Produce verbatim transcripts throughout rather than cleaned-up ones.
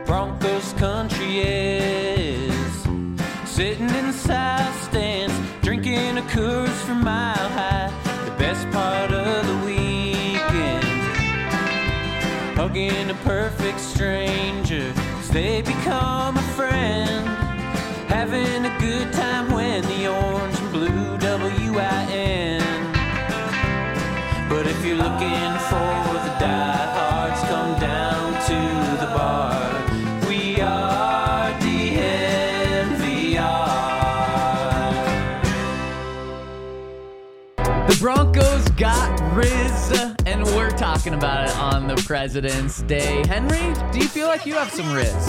Broncos country is. Sitting in the south stands, drinking a Coors from Mile High. The best part of the weekend, hugging a perfect stranger, 'cause they become a friend. Having a good time when the orange and blue W I N. But if you're looking for the diehards, come down to the bar. We are D N V R. The Broncos got Riz, and we're talking about it on the President's Day. Henry, do you feel like you have some Riz?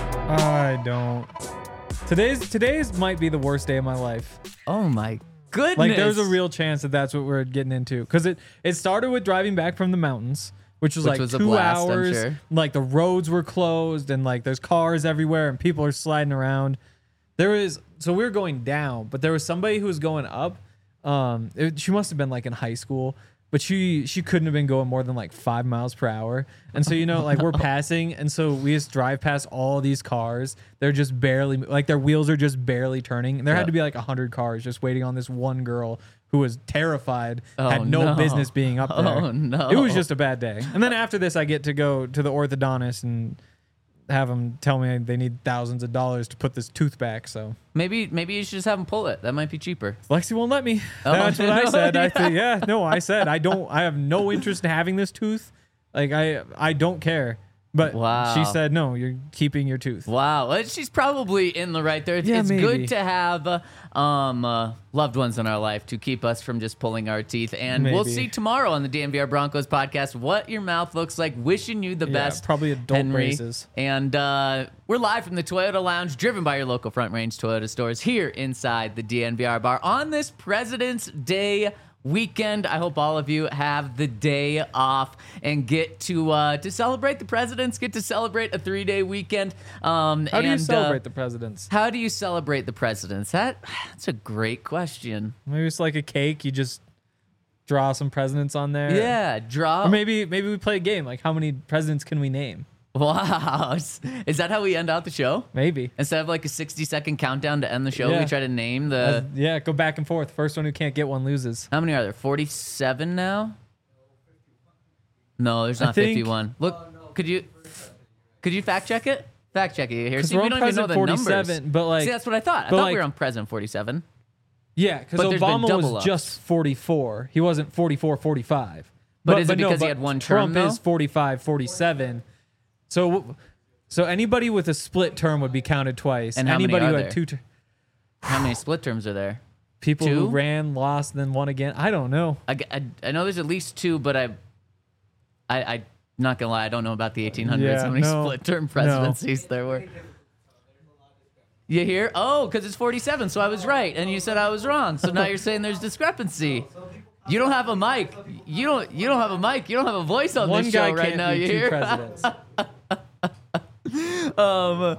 I don't. Today's today's might be the worst day of my life. Oh my goodness. Like there's a real chance that that's what we're getting into. Because it, it started with driving back from the mountains, which was Which like was a two blast, I'm hours. sure. Like the roads were closed and like there's cars everywhere and people are sliding around. There was, so we were going down, but there was somebody who was going up. Um, it, she must have been like in high school. But she she couldn't have been going more than like five miles per hour. And so, you know, like we're passing. And so we just drive past all these cars. They're just barely, like their wheels are just barely turning. And there Yeah. had to be like one hundred cars just waiting on this one girl who was terrified, Oh, had no, no. business being up there. Oh, no. It was just a bad day. And then after this, I get to go to the orthodontist and have them tell me they need thousands of dollars to put this tooth back. So Maybe maybe you should just have him pull it. That might be cheaper. Lexi won't let me. Oh, That's what I no, said. I yeah. think, yeah, no, I said I don't. I have no interest in having this tooth. Like I, I don't care. But Wow. she said no. You're keeping your tooth. Wow, well, she's probably in the right there. It's, Yeah, it's maybe. good to have uh, um, uh, loved ones in our life to keep us from just pulling our teeth. And we'll Maybe. see tomorrow on the D N V R Broncos podcast what your mouth looks like. Wishing you the Yeah, best. probably adult Henry. braces. And uh, we're live from the Toyota Lounge, driven by your local Front Range Toyota stores here inside the D N V R bar on this President's Day weekend. I hope all of you have the day off and get to uh, to celebrate the presidents, get to celebrate a three-day weekend. Um, How do you and, celebrate uh, the presidents? How do you celebrate the presidents? That That's a great question. Maybe it's like a cake. You just draw some presidents on there. Yeah, draw. Or maybe maybe we play a game. Like how many presidents can we name? Wow. Is that how we end out the show? Maybe. Instead of like a sixty second countdown to end the show, Yeah. we try to name the. Uh, yeah, go back and forth. First one who can't get one loses. How many are there? forty-seven now? No, there's I not think- fifty-one. Look, could you could you fact check it? Fact check it here. Because See, we're we on don't even know president the numbers. forty-seven, but like See, that's what I thought. I but thought like- we were on President forty-seven. yeah, because But there's been Obama double was ups. just forty-four. He wasn't forty-four, forty-five. But is it no, because he but had one term, Trump though? is forty-five, forty-seven. So so anybody with a split term would be counted twice. And how many anybody are who there? had two ter- How many split terms are there? people Two? who ran, lost, then won again. I don't know. I, I, I know there's at least two, but I, I, I'm not gonna lie, I don't know about the eighteen hundreds. Yeah, how many no, split term no. presidencies there were? You hear? Oh, because it's forty-seven, so I was right, and you said I was wrong. So now you're saying there's discrepancy. You don't have a mic. You don't. You don't have a mic. You don't have a voice on One this guy show right can't now. be You two hear? presidents. um.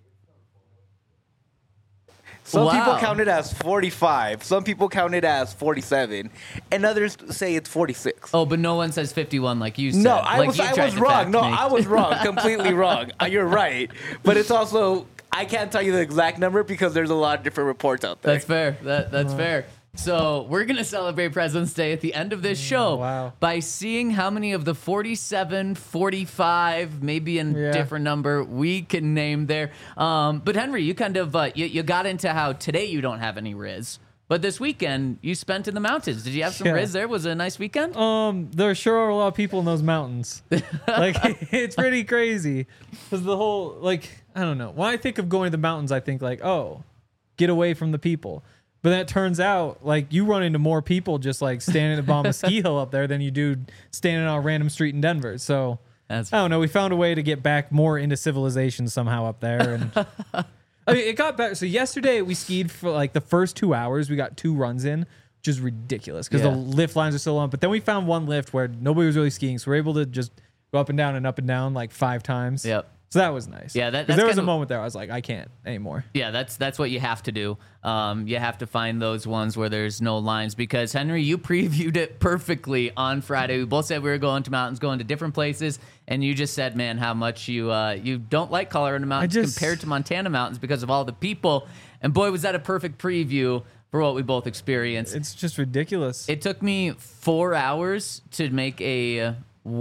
Some Wow. people count it as forty-five. Some people count it as forty-seven, and others say it's forty-six. Oh, but no one says fifty-one like you said. No, I Like was you I tried was to fact wrong. No, me. I was wrong. Completely wrong. Uh, You're right. But it's also I can't tell you the exact number because there's a lot of different reports out there. That's fair. That that's fair. So we're gonna celebrate President's Day at the end of this show wow. by seeing how many of the forty-seven, forty-five, maybe a Yeah. different number we can name there. Um, but Henry, you kind of uh, you, you got into how today you don't have any Riz, but this weekend you spent in the mountains. Did you have some Yeah. Riz there? Was it a nice weekend? Um, there sure are a lot of people in those mountains. Like it's pretty crazy because the whole like I don't know. When I think of going to the mountains, I think like oh, get away from the people. But then it turns out like you run into more people just like standing at the bottom of a ski hill up there than you do standing on a random street in Denver. So That's I don't know. We found a way to get back more into civilization somehow up there, and I mean it got better. So yesterday we skied for like the first two hours. We got two runs in, which is ridiculous because Yeah. the lift lines are so long. But then we found one lift where nobody was really skiing, so we're able to just go up and down and up and down like five times. Yep. So that was nice. Yeah, that- 'Cause that's there was a kind of- moment there I was like, I can't anymore. Yeah, that's that's what you have to do. Um, you have to find those ones where there's no lines because Henry, you previewed it perfectly on Friday. We both said we were going to mountains, going to different places, and you just said, man, how much you uh, you don't like Colorado mountains just- compared to Montana mountains because of all the people. And boy, was that a perfect preview for what we both experienced. It's just ridiculous. It took me four hours to make a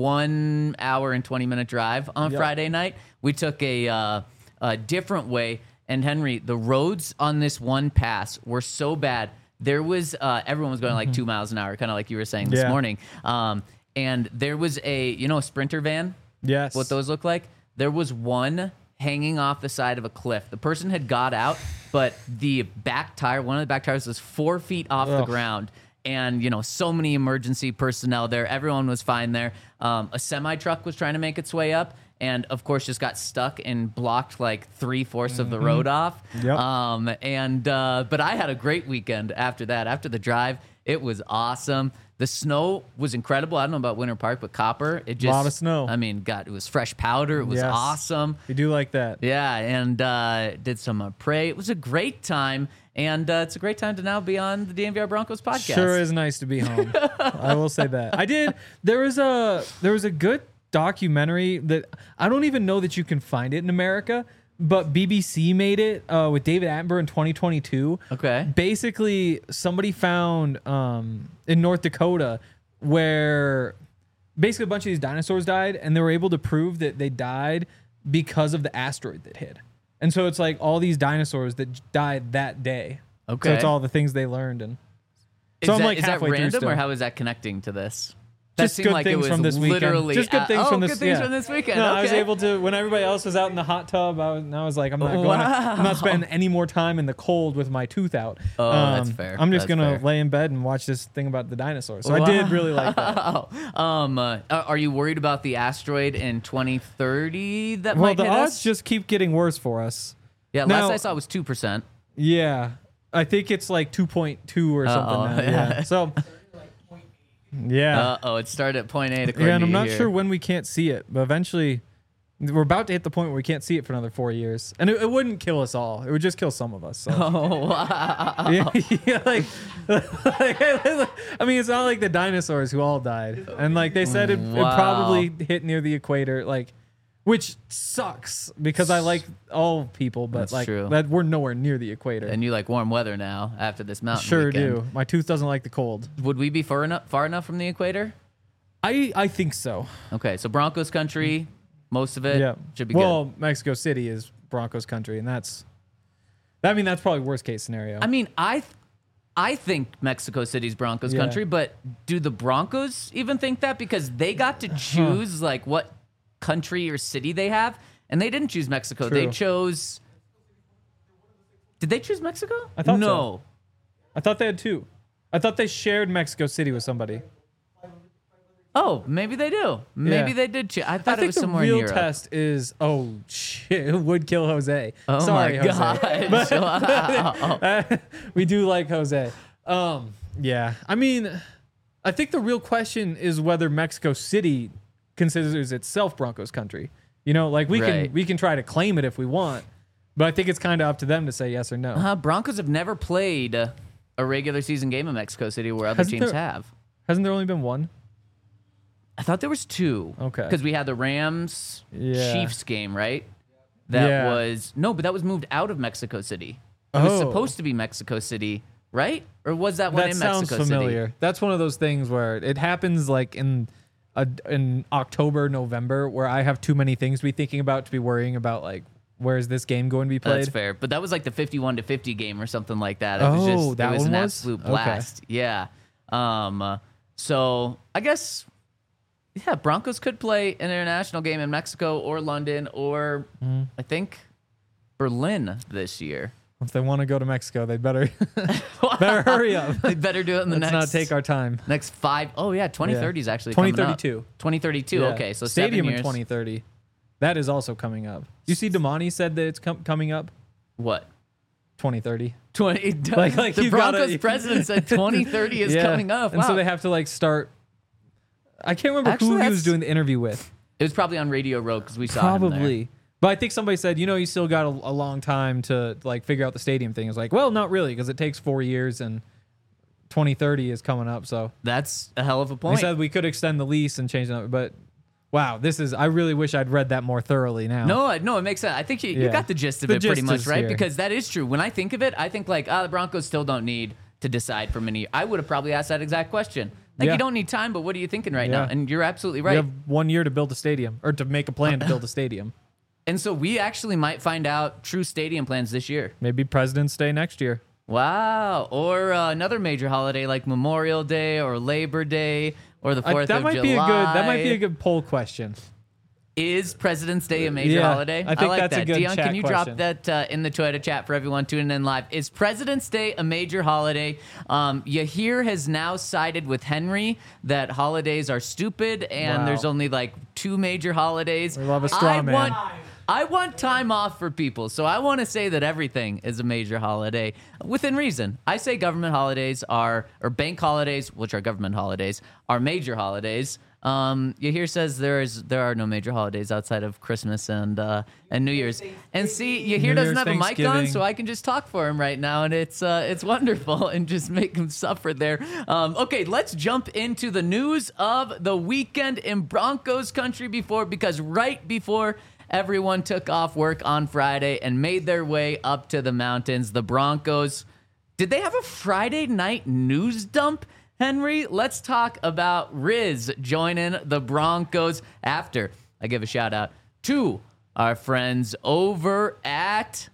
one hour and twenty minute drive on Yep. Friday night. We took a, uh, a different way. And Henry, the roads on this one pass were so bad. There was, uh, everyone was going like two miles an hour, kind of like you were saying this Yeah. morning. Um, and there was a, you know, a Sprinter van, yes. what those look like? There was one hanging off the side of a cliff. The person had got out, but the back tire, one of the back tires was four feet off the Ugh. ground. And, you know, so many emergency personnel there. Everyone was fine there. Um, a semi truck was trying to make its way up. And of course, just got stuck and blocked like three fourths of the road off. Yep. Um, and uh, but I had a great weekend after that. After the drive, it was awesome. The snow was incredible. I don't know about Winter Park, but Copper, it just Lot of snow. I mean, God, it was fresh powder. It was Yes. awesome. We do like that. Yeah, and uh, did some uh, pray. It was a great time, and uh, it's a great time to now be on the D N V R Broncos podcast. Sure is nice to be home. I will say that. I did. There was a there was a good documentary that I don't even know that you can find it in America, but B B C made it uh, with David Attenborough in twenty twenty-two. Okay. Basically, somebody found um, in North Dakota where basically a bunch of these dinosaurs died, and they were able to prove that they died because of the asteroid that hit. And so it's like all these dinosaurs that died that day. Okay. So it's all the things they learned and. Is So I'm that, like is that halfway through random, still. or how is that connecting to this? That Just seemed good like it things was from this weekend. literally Just good at- things oh, from this. good things yeah. from this weekend. No, okay. I was able to when everybody else was out in the hot tub. I was, and I was like, I'm not going. I'm not spending any more time in the cold with my tooth out. Um, Oh, that's fair. I'm just That's gonna fair. lay in bed and watch this thing about the dinosaurs. So I did really like that. Oh, um, uh, are you worried about the asteroid in twenty thirty that Well, might the hit odds us? just keep getting worse for us. yeah, now- last I saw was two percent. Yeah, I think it's like two point two or something Uh-oh. now. Yeah. So. Yeah. Uh oh, it started at point eight. According Yeah, and to I'm you not here. sure when we can't see it, but eventually we're about to hit the point where we can't see it for another four years. And it, it wouldn't kill us all. It would just kill some of us. So. Oh wow! yeah, yeah, like, like, I mean, it's not like the dinosaurs who all died. And like they said, it, Wow. it probably hit near the equator, like, which sucks because I like all people, but That's like true. that we're nowhere near the equator. And you like warm weather now after this mountain. Sure weekend. do. My tooth doesn't like the cold. Would we be far enough far enough from the equator? I I think so. Okay, so Broncos country, most of it Yeah. should be well, good. Mexico City is Broncos country, and that's. I mean, that's probably worst case scenario. I mean, I, th- I think Mexico City's Broncos Yeah. country, but do the Broncos even think that because they got to choose like what country or city they have, and they didn't choose Mexico. They True. chose. Did they choose Mexico? I thought so. no. I thought they had two. I thought they shared Mexico City with somebody. Oh, maybe they do. Maybe Yeah. they did. Choose. I I thought it think was the somewhere real in Europe. test is oh shit would kill Jose. Oh Sorry, my Jose. god! Wow. We do like Jose. Um, yeah. I mean, I think the real question is whether Mexico City considers itself Broncos country. You know, like we Right. can we can try to claim it if we want, but I think it's kind of up to them to say yes or no. Uh, Broncos have never played a regular season game in Mexico City where other Hasn't teams there- have. Hasn't there only been one? I thought there was two. Okay. Because we had the Rams Yeah. Chiefs game, right? That Yeah. was no, but that was moved out of Mexico City. It was Oh. supposed to be Mexico City, right? Or was that one That in sounds Mexico familiar. City? That's one of those things where it happens like in a, in October, November, where I have too many things to be thinking about to be worrying about like where's this game going to be played. That's fair. But that was like the fifty-one to fifty game or something like that. It was Oh, just that it was one an was? absolute Okay. blast. Yeah. Um uh, so I guess yeah, Broncos could play an international game in Mexico or London or Mm-hmm. I think Berlin this year. If they want to go to Mexico, they better better hurry up. They better do it in the Let's next not take our time. next five. Oh yeah, twenty thirty is actually twenty coming up. thirty-two. twenty thirty-two. Yeah. Okay, so stadium seven years. in twenty thirty. That is also coming up. You see, Damani said that it's com- coming up What? twenty thirty. twenty. Like- like the you've gotta- Broncos president said twenty thirty is Yeah. coming up. And so Wow. they have to like start. I can't remember Actually, who he that's- was doing the interview with. It was probably on Radio Row because we saw him there. Probably. But I think somebody said, you know, you still got a, a long time to like figure out the stadium thing. It's like, well, not really, because it takes four years and twenty thirty is coming up. So That's a hell of a they point. said we could extend the lease and change it. But wow, this is, I really wish I'd read that more thoroughly now. No, I- no, it makes sense. I think you, you Yeah. got the gist of The it pretty gist much, is right? here. Because that is true. When I think of it, I think like, ah, the Broncos still don't need to decide for many. I would have probably asked that exact question. Like, Yeah. you don't need time, but what are you thinking right now? Yeah. And you're absolutely We right. have one year to build a stadium or to make a plan to build a stadium. And so we actually might find out true stadium plans this year. Maybe President's Day next year. Wow. Or uh, another major holiday like Memorial Day or Labor Day or the I- fourth that of might July. be a good. That might be a good poll question. Is President's Day a major Yeah, holiday? I think like that's a that. good Dion, chat can you question. drop that uh, in the Twitter chat for everyone tuning in live? Is President's Day a major holiday? Um, Yahir has now sided with Henry that holidays are stupid and Wow. there's only like two major holidays. We love a straw I man. Want, I want time off for people, so I want to say that everything is a major holiday within reason. I say government holidays are, or bank holidays, which are government holidays, are major holidays. Um, Yahir says there is there are no major holidays outside of Christmas and uh, and New Year's. And see, Yahir New doesn't Year's, have a mic on, Thanksgiving. so I can just talk for him right now, and it's uh, it's wonderful, and just make him suffer there. Um, okay, let's jump into the news of the weekend in Broncos country before because right before everyone took off work on Friday and made their way up to the mountains, the Broncos. Did they have a Friday night news dump? Henry, let's talk about Riz joining the Broncos after I give a shout out to our friends over at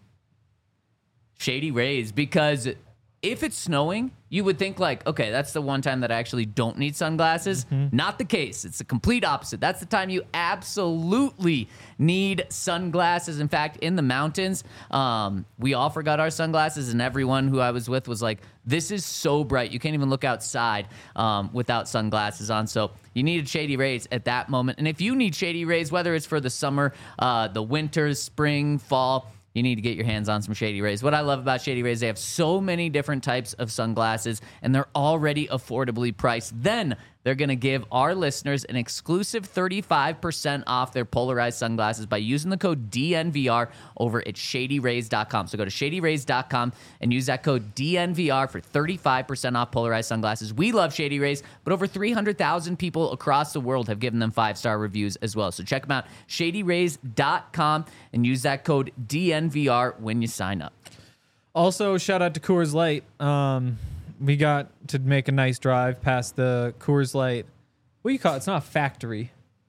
Shady Rays, because if it's snowing, you would think like, okay, that's the one time that I actually don't need sunglasses. Not the case. It's the complete opposite. That's the time you absolutely need sunglasses. In fact, in the mountains, um, we all forgot our sunglasses, and everyone who I was with was like, this is so bright. You can't even look outside um, without sunglasses on. So you needed Shady Rays at that moment. And if you need Shady Rays, whether it's for the summer, uh, the winter, spring, fall, you need to get your hands on some Shady Rays. What I love about Shady Rays, they have so many different types of sunglasses, and they're already affordably priced. Then they're going to give our listeners an exclusive thirty-five percent off their polarized sunglasses by using the code D N V R over at shady rays dot com. So go to shady rays dot com and use that code D N V R for thirty-five percent off polarized sunglasses. We love Shady Rays, but over three hundred thousand people across the world have given them five-star reviews as well. So check them out, shady rays dot com, and use that code D N V R when you sign up. Also, shout out to Coors Light. Um, we got to make a nice drive past the Coors Light. What do you call it? It's not a factory.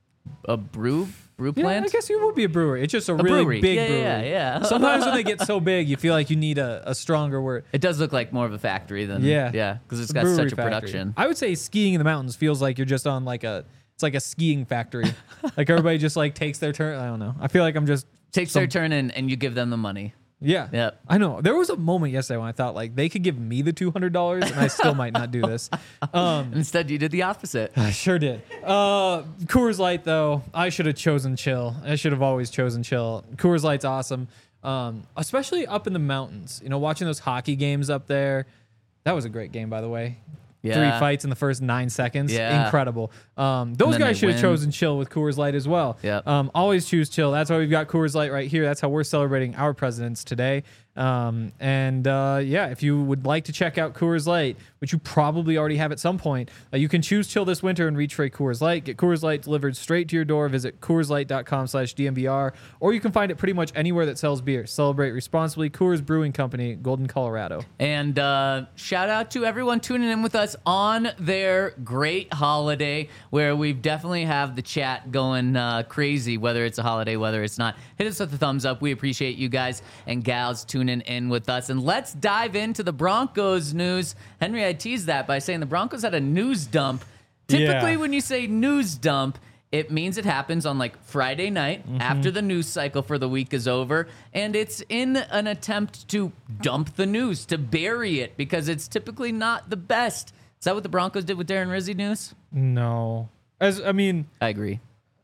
A brew brew Yeah, plant? I guess it would be a brewery. It's just a, A really brewery. big Yeah, brewery. yeah, yeah. Sometimes when they get so big, you feel like you need a, a stronger word. It does look like more of a factory than Yeah, yeah, because it's a got brewery such a factory. production. I would say skiing in the mountains feels like you're just on like a. It's like a skiing factory. Like everybody just like takes their turn. I don't know. I feel like I'm just Takes some- their turn and, and you give them the money. Yeah. Yep. I know. There was a moment yesterday when I thought like they could give me the two hundred dollars and I still might not do this. Um, Instead, you did the opposite. I sure did. Uh, Coors Light though, I should have chosen chill. I should have always chosen chill. Coors Light's awesome. Um, especially up in the mountains. You know, watching those hockey games up there. That was a great game, by the way. Yeah. Three fights in the first nine seconds. Yeah. Incredible. Um, those then guys they should have win. chosen chill with Coors Light as well. Yep. Um, always choose chill. That's why we've got Coors Light right here. That's how we're celebrating our presidents today. Um, and uh, yeah, if you would like to check out Coors Light, which you probably already have at some point, uh, you can choose chill this winter and reach for a Coors Light. Get Coors Light delivered straight to your door. Visit coors light dot com slash D M V R, or you can find it pretty much anywhere that sells beer. Celebrate responsibly. Coors Brewing Company, Golden, Colorado. And uh, shout out to everyone tuning in with us on their great holiday, where we definitely have the chat going uh, crazy, whether it's a holiday, whether it's not. Hit us with a thumbs up. We appreciate you guys and gals tuning in with us. And let's dive into the Broncos news. Henry, I teased that by saying the Broncos had a news dump. Typically, Yeah. when you say news dump, it means it happens on like Friday night after the news cycle for the week is over. And it's in an attempt to dump the news, to bury it, because it's typically not the best. Is that what the Broncos did with Darren Rizzi news? No. As I mean, I agree.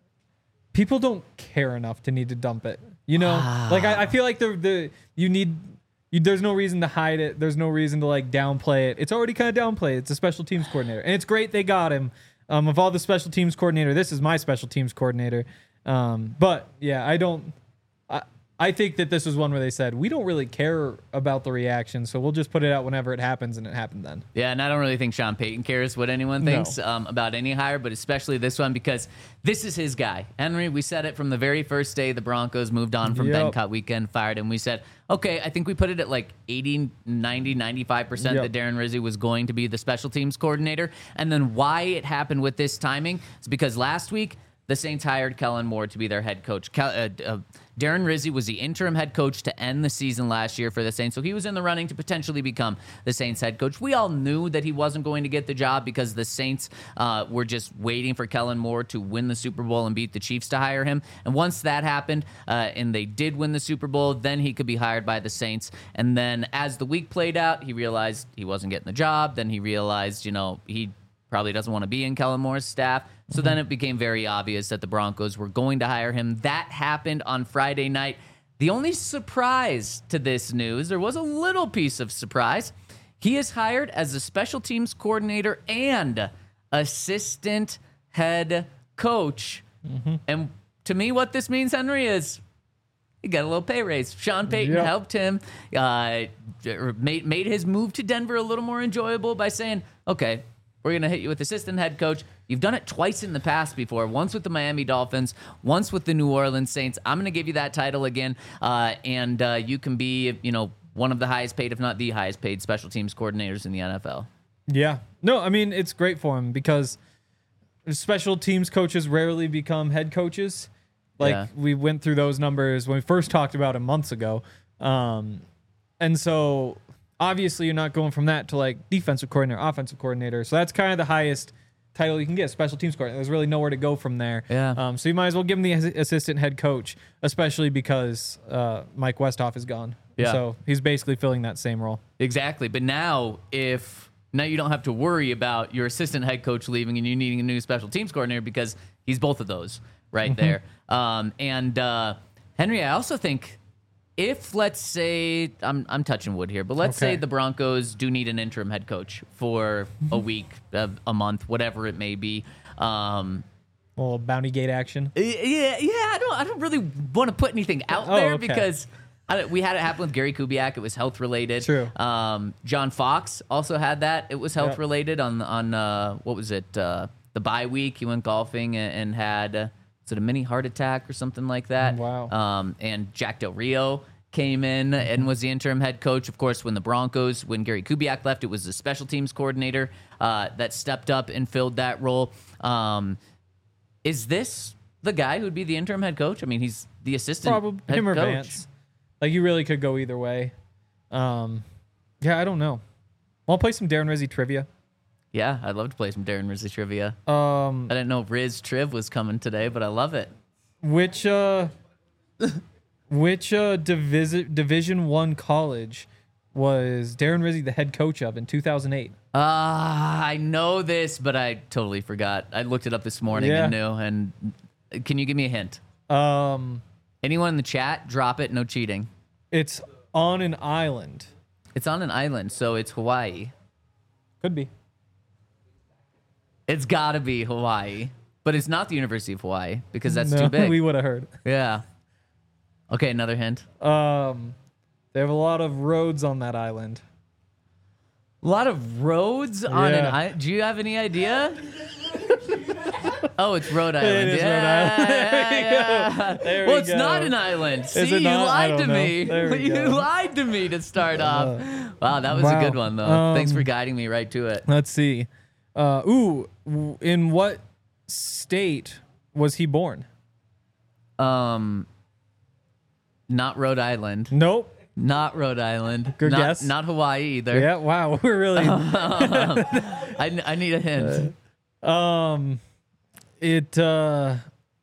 people don't care enough to need to dump it. You know, like I, I feel like the the you need. You, there's no reason to hide it. There's no reason to like downplay it. It's already kind of downplayed. It's a special teams coordinator, and it's great they got him. Um, of all the special teams coordinator, this is my special teams coordinator. Um, but yeah, I don't. I think that this was one where they said, we don't really care about the reaction, so we'll just put it out whenever it happens, and it happened then. Yeah, and I don't really think Sean Payton cares what anyone thinks No. um, about any hire, but especially this one because this is his guy. Henry, we said it from the very first day the Broncos moved on from Ben Yep. Cut Weekend, fired him. We said, okay, I think we put it at like eighty, ninety, ninety-five percent Yep. that Darren Rizzi was going to be the special teams coordinator. And then why it happened with this timing is because last week, the Saints hired Kellen Moore to be their head coach. Kel, uh, uh, Darren Rizzi was the interim head coach to end the season last year for the Saints, so he was in the running to potentially become the Saints head coach. We all knew that he wasn't going to get the job because the Saints uh, were just waiting for Kellen Moore to win the Super Bowl and beat the Chiefs to hire him. And once that happened, uh, and they did win the Super Bowl, then he could be hired by the Saints. And then as the week played out, he realized he wasn't getting the job. Then he realized, you know, he probably doesn't want to be in Kellen Moore's staff. So then it became very obvious that the Broncos were going to hire him. That happened on Friday night. The only surprise to this news, there was a little piece of surprise. He is hired as a special teams coordinator and assistant head coach. Mm-hmm. And to me, what this means, Henry, is he got a little pay raise. Sean Payton Yep. helped him, uh, made, made his move to Denver a little more enjoyable by saying, okay, we're going to hit you with assistant head coach. You've done it twice in the past before, once with the Miami Dolphins, once with the New Orleans Saints. I'm going to give you that title again, uh, and uh, you can be, you know, one of the highest paid, if not the highest paid, special teams coordinators in the N F L. Yeah. No, I mean, it's great for him because special teams coaches rarely become head coaches. Like, Yeah. we went through those numbers when we first talked about it months ago. Um, and so, obviously, you're not going from that to, like, defensive coordinator, offensive coordinator. So that's kind of the highest title you can get, special teams coordinator. There's really nowhere to go from there. Yeah. Um, so you might as well give him the as- assistant head coach, especially because uh, Mike Westhoff is gone. Yeah. So he's basically filling that same role. Exactly. But now, if now you don't have to worry about your assistant head coach leaving and you needing a new special teams coordinator because he's both of those right there. Um, and uh, Henry, I also think if, let's say, I'm I'm touching wood here, but let's say Okay. the Broncos do need an interim head coach for a week, a, a month, whatever it may be. Um, A little bounty gate action. yeah, yeah. I don't I don't really want to put anything out Oh, there okay. because I, don't- we had it happen with Gary Kubiak. It was health related. True. Um, John Fox also had that. It was health Yep. related on on uh, what was it? Uh, the bye week. He went golfing and, and had uh, was it a mini heart attack or something like that? Wow. Um, and Jack Del Rio came in and was the interim head coach. Of course, when the Broncos, when Gary Kubiak left, it was the special teams coordinator uh, that stepped up and filled that role. Um, is this the guy who would be the interim head coach? I mean, he's the assistant Probably head him or coach. Vance. Like, you really could go either way. Um, yeah, I don't know. I'll play some Darren Rizzi trivia. Yeah, I'd love to play some Darren Rizzi trivia. Um, I didn't know Riz Triv was coming today, but I love it. which uh, which uh, divisi- Division One college was Darren Rizzi the head coach of in two thousand eight? Ah, I know this, but I totally forgot. I looked it up this morning Yeah. and knew. And can you give me a hint? Um, Anyone in the chat, drop it. No cheating. it's on an island. It's on an island, so it's Hawaii. Could be. It's got to be Hawaii, but it's not the University of Hawaii because that's no, too big. we would have heard. Yeah. Okay, another hint. Um, they have a lot of roads on that island. A lot of roads on an Yeah. island. Do you have any idea? Oh, it's Rhode Island. is Rhode yeah, Island. yeah, yeah. There well, we it's go. not an island. See, it you not? I lied to don't know. me. There we You go. Uh, lied to me to start off. Wow, that was a wow. good one, though. Um, Thanks for guiding me right to it. Let's see. Uh, ooh, w- in what state was he born? Um, not Rhode Island. Nope. Not Rhode Island. Good not, guess. Not Hawaii either. Yeah. Wow. We're really. I, I need a hint. Um, it uh,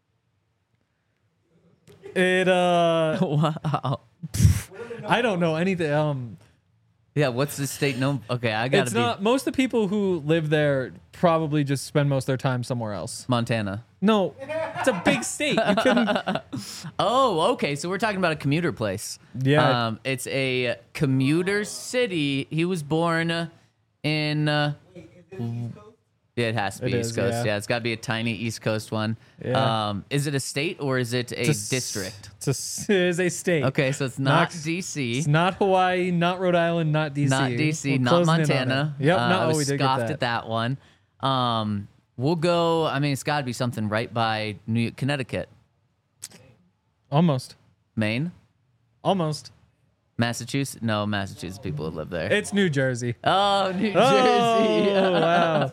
it uh, Wow. I don't know anything. Um, Yeah, what's the state known? Okay, I gotta it's be not. Most of the people who live there probably just spend most of their time somewhere else. Montana. No, it's a big state. You couldn't. Oh, okay. So we're talking about a commuter place. Yeah. Um, it's a commuter city. He was born in. Uh, Yeah, it has to be It East is, Coast. yeah. Yeah. It's got to be a tiny East Coast one. Yeah. Um, is it a state or is it a It's s- district? It's a, s- it is a state. Okay, so it's not Not- D C. It's not Hawaii, not Rhode Island, not D C. Not D C, We're not closing in on Montana. it. Yep, uh, no, I oh, was we did get scoffed that. at that one. Um, we'll go. I mean, it's got to be something right by New Connecticut, Almost. Maine, Almost. Massachusetts. No, Massachusetts people that live there. It's New Jersey. Oh, New Jersey. Oh, wow.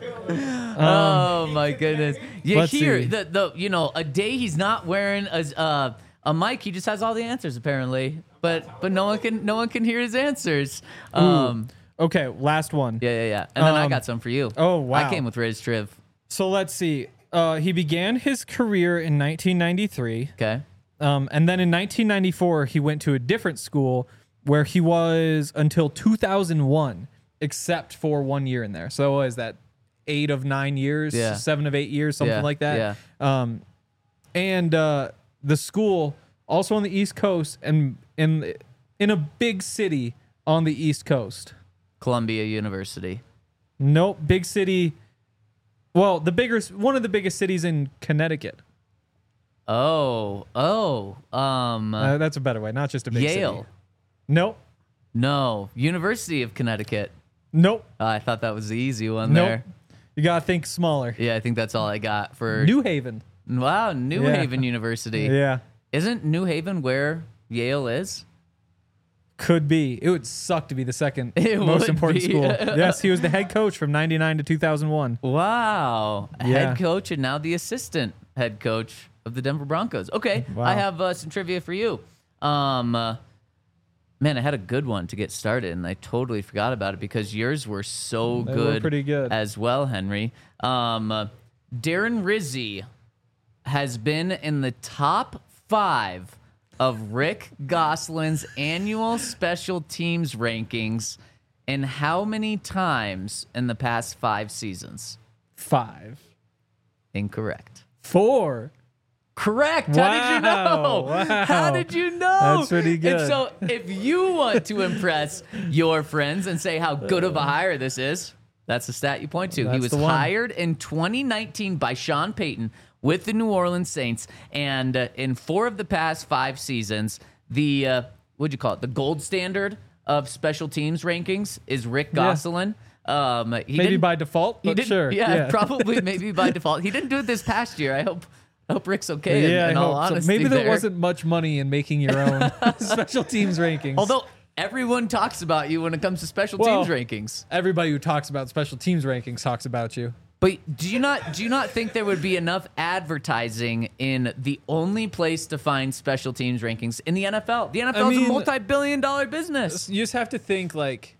oh my goodness. Yeah, let's here see. the the you know a day he's not wearing a uh, a mic. He just has all the answers apparently, but but no one can no one can hear his answers. Um, Okay, last one. yeah, yeah, yeah. And then I Um, got some for you. oh, I wow. came with Riz Triv. So let's see. Uh, he began his career in nineteen ninety-three. Okay. Um, and then in nineteen ninety-four, he went to a different school where he was until two thousand one, except for one year in there. So what is that eight of nine years, Yeah. seven of eight years, something Yeah, like that? yeah. Um, and uh, the school also on the East Coast and in in a big city on the East Coast. Columbia University. Nope, big city. Well, the bigger one of the biggest cities in Connecticut. Oh, oh, um, Uh, that's a better way, not just a big city. Yale. Nope. No, University of Connecticut. Nope. Uh, I thought that was the easy one Nope. there. You gotta think smaller. Yeah, I think that's all I got for. New Haven. wow, New Yeah. Haven University. Yeah. Isn't New Haven where Yale is? Could be. It would suck to be the second It most would important be. school. Yes, he was the head coach from ninety-nine to two thousand one. Wow. Yeah. Head coach and now the assistant head coach of the Denver Broncos. Okay, Wow. I have uh, some trivia for you. Um, uh, man, I had a good one to get started, and I totally forgot about it because yours were so They were good, pretty good. as well, Henry. Um, uh, Darren Rizzi has been in the top five of Rick Gosselin's annual special teams rankings, and how many times in the past five seasons? Five. Incorrect. Four. Correct. How did you know? Wow, wow. How did you know? That's pretty good. And so, if you want to impress your friends and say how good of a hire this is, that's the stat you point to. He That's was the one. hired in twenty nineteen by Sean Payton with the New Orleans Saints, and uh, in four of the past five seasons, the uh, what'd you call it? The gold standard of special teams rankings is Rick Yeah. Gosselin. Um, he Maybe didn't- by default, he but didn't, sure. Yeah, probably maybe by default. He didn't do it this past year. I hope I hope Rick's okay. in- Yeah, in, I all hope so. honesty, Maybe there, there wasn't much money in making your own special teams rankings. Although everyone talks about you when it comes to special Well- teams rankings. everybody who talks about special teams rankings talks about you. But do you not do you not think there would be enough advertising in the only place to find special teams rankings in the N F L? The N F L is mean- a multi-billion dollar business. You just have to think like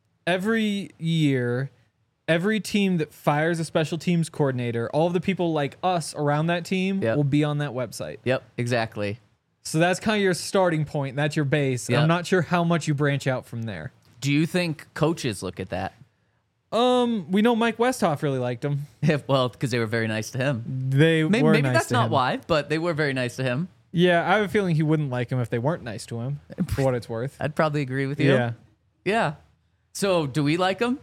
every year, every team that fires a special teams coordinator, all of the people like us around that team Yep. will be on that website. Yep, exactly. So that's kind of your starting point. That's your base. Yep. I'm not sure how much you branch out from there. Do you think coaches look at that? Um, we know Mike Westhoff really liked him. Well, because they were very nice to him. They Maybe, were maybe nice that's to not him. why, but they were very nice to him. Yeah, I have a feeling he wouldn't like him if they weren't nice to him. For what it's worth. I'd probably agree with you. Yeah, Yeah. So, do we like him?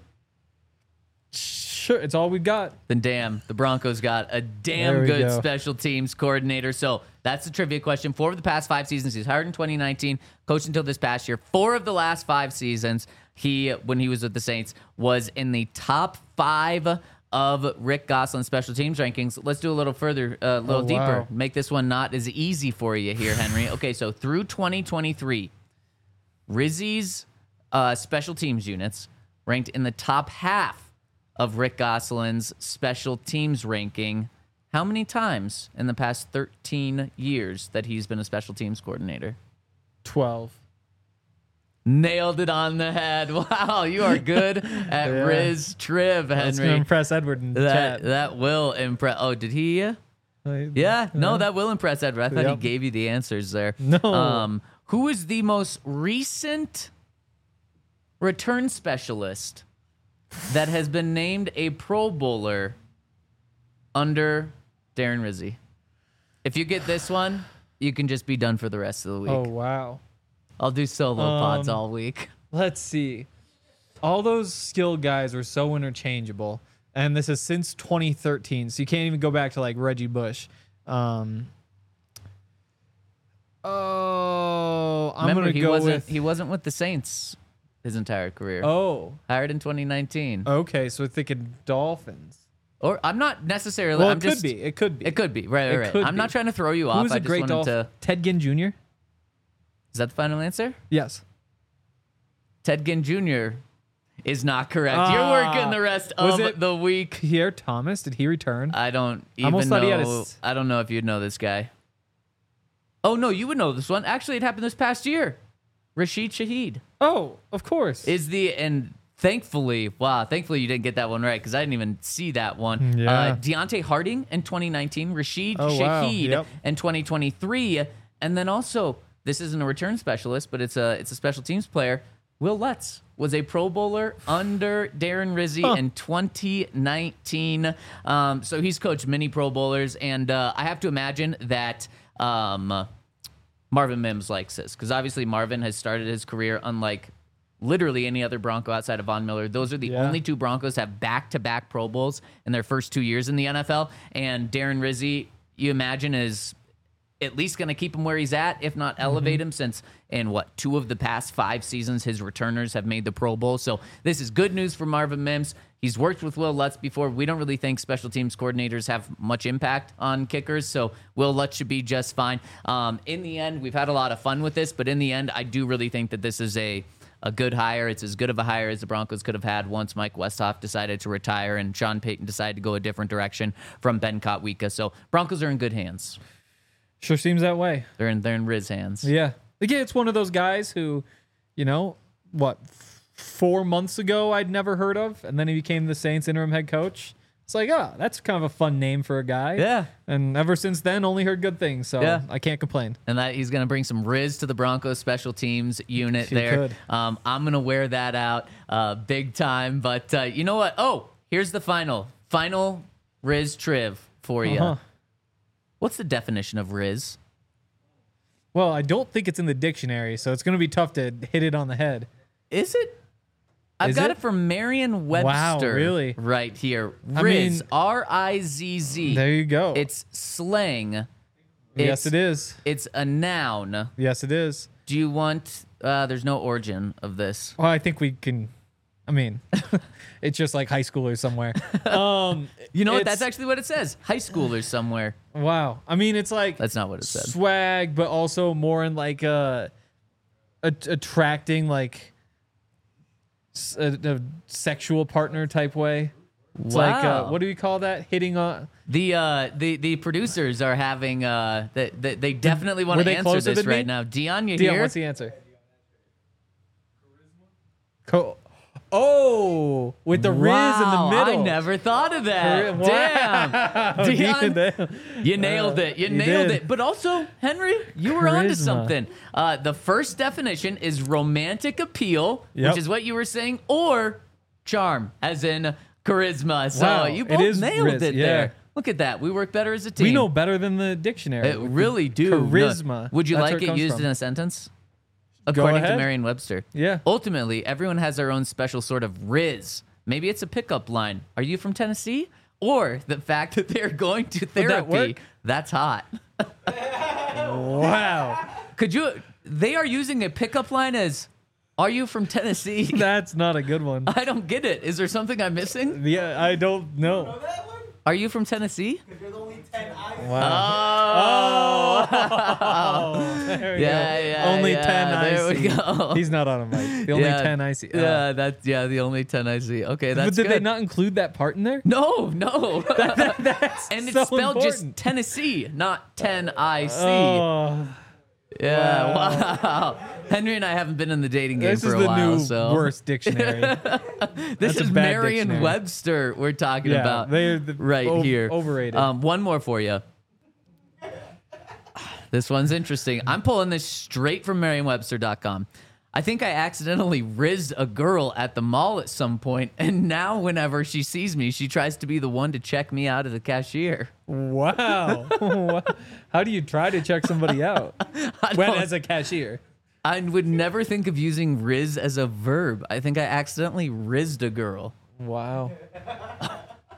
sure. It's all we got. Then damn, the Broncos got a damn There we good go. special teams coordinator. So that's the trivia question. Four of the past five seasons, he's hired in twenty nineteen, coached until this past year. Four of the last five seasons, he, when he was with the Saints, was in the top five of Rick Gosselin's special teams rankings. Let's do a little further, a little Oh, deeper. wow. Make this one not as easy for you here, Henry. Okay, so through twenty twenty-three, Rizzi's uh, special teams units ranked in the top half of Rick Gosselin's special teams ranking. How many times in the past thirteen years that he's been a special teams coordinator? Twelve. Nailed it on the head. Wow, you are good at Yeah. Riz Triv, That's gonna Henry. impress Edward in the That chat. that will impress. Oh, did he? uh, Yeah, no, that will impress Edward. I thought he Yep. gave you the answers there. No. Um, who is the most recent return specialist that has been named a Pro Bowler under Darren Rizzi? If you get this one, you can just be done for the rest of the week. Oh wow. I'll do solo pods Um, all week. Let's see. All those skill guys were so interchangeable. and this is since twenty thirteen, so you can't even go back to like Reggie Bush. Um, oh, I'm Remember, gonna he go wasn't with. he wasn't with the Saints his entire career. Oh, Hired in twenty nineteen. okay, so we're thinking Dolphins. Or I'm not necessarily. Well, I'm it just, could be. It could be. It could be. Right, It right, right. could I'm be. not trying to throw you off. Who's I a just great wanted Dolphin? to. Ted Ginn Junior Is that the final answer? Yes. Ted Ginn Junior is not correct. You're Ah, working the rest was of it- the week. Pierre Thomas, did he return? I don't I even almost know. thought he had a s- I don't know if you'd know this guy. Oh no, you would know this one. Actually, it happened this past year. Rashid Shaheed oh, of course. is the and thankfully, wow, thankfully you didn't get that one right because I didn't even see that one. Yeah. Uh, Deontay Harding in twenty nineteen, Rashid Oh, wow. Shaheed Yep. in twenty twenty-three, and then also this isn't a return specialist, but it's a it's a special teams player. Will Lutz was a Pro Bowler under Darren Rizzi Huh. in twenty nineteen. Um, so he's coached many Pro Bowlers, and uh, I have to imagine that um, Marvin Mims likes this because obviously Marvin has started his career unlike literally any other Bronco outside of Von Miller. Those are the Yeah. only two Broncos to have back-to-back Pro Bowls in their first two years in the N F L, and Darren Rizzi, you imagine, is at least going to keep him where he's at, if not elevate him, since in what, two of the past five seasons, his returners have made the Pro Bowl. So this is good news for Marvin Mims. He's worked with Will Lutz before. We don't really think special teams coordinators have much impact on kickers, so Will Lutz should be just fine. Um, in the end, we've had a lot of fun with this, but in the end, I do really think that this is a a good hire. It's as good of a hire as the Broncos could have had once Mike Westhoff decided to retire and Sean Payton decided to go a different direction from Ben Kotwica. So Broncos are in good hands. Sure seems that way. They're in they're in Riz hands. Yeah. Again, it's one of those guys who, you know, what, f- four months ago I'd never heard of, and then he became the Saints interim head coach. It's like, oh, that's kind of a fun name for a guy. Yeah. And ever since then, only heard good things, so Yeah. I can't complain. And that he's going to bring some Riz to the Broncos special teams unit He there. could. Um, I'm going to wear that out uh, big time. But uh, you know what? Oh, here's the final. Final Riz Triv for you. Uh-huh. What's the definition of Riz? Well, I don't think it's in the dictionary, so it's going to be tough to hit it on the head. Is it? I've Is got it? it from Merriam-Webster. Wow, really? Right here. I Riz, mean- R I Z Z. There you go. It's slang. yes, It's- it is. It's a noun. Yes, it is. Do you want... Uh, there's no origin of this. Well, I think we can. I mean, it's just like high schoolers somewhere. Um, You know what? it's- That's actually what it says. High schoolers somewhere. wow. I mean, it's like That's not what it said. swag, but also more in like a, a attracting like s- a, a sexual partner type way. It's like uh, Wow. what do you call that? Hitting on. The uh the the producers are having uh they they, they definitely want Were to they answer closer this than me? right now. Dion, you Dion, here? what's the answer? Co- oh, with the wow, Riz in the middle. I never thought of that. Wow. Damn. Dion, Damn. you nailed it. You you nailed did. it. But also, Henry, you were onto Charisma. something. Uh, the first definition is romantic appeal, Yep. which is what you were saying, or charm, as in charisma. So Wow, you it both is nailed Riz, it yeah. there. Look at that. We work better as a team. We know better than the dictionary. It really do. No. Charisma. Would you That's like where it, comes used from. in a sentence? According to ahead. Merriam-Webster. Yeah. Ultimately, everyone has their own special sort of riz. Maybe it's a pickup line. Are you from Tennessee? Or the fact that they're going to that therapy. work? That's hot. Wow. Could you? They are using a pickup line as, "Are you from Tennessee?" That's not a good one. I don't get it. Is there something I'm missing? Yeah, I don't know. Are you from Tennessee? Wow. Oh, There we yeah, go. yeah. Only yeah, ten I there we see. go. He's not on a mic. The only yeah, ten I see. Oh. Yeah, that's yeah, the only ten I see. Okay, that's but did good. they not include that part in there? No, no. That's and it's so spelled just important. Tennessee, not ten I C. Oh, yeah, wow. Henry and I haven't been in the dating game this for is a the while, new so worst dictionary. this That's a is bad Merriam-Webster we're talking Yeah, about they're the- right o- here. overrated. Um, one more for you. This one's interesting. I'm pulling this straight from Merriam Webster dot com. I think I accidentally rizzed a girl at the mall at some point, and now whenever she sees me, she tries to be the one to check me out as a cashier. Wow. How do you try to check somebody out? I When don't- as a cashier. I would never think of using riz as a verb. I think I accidentally rizzed a girl. Wow.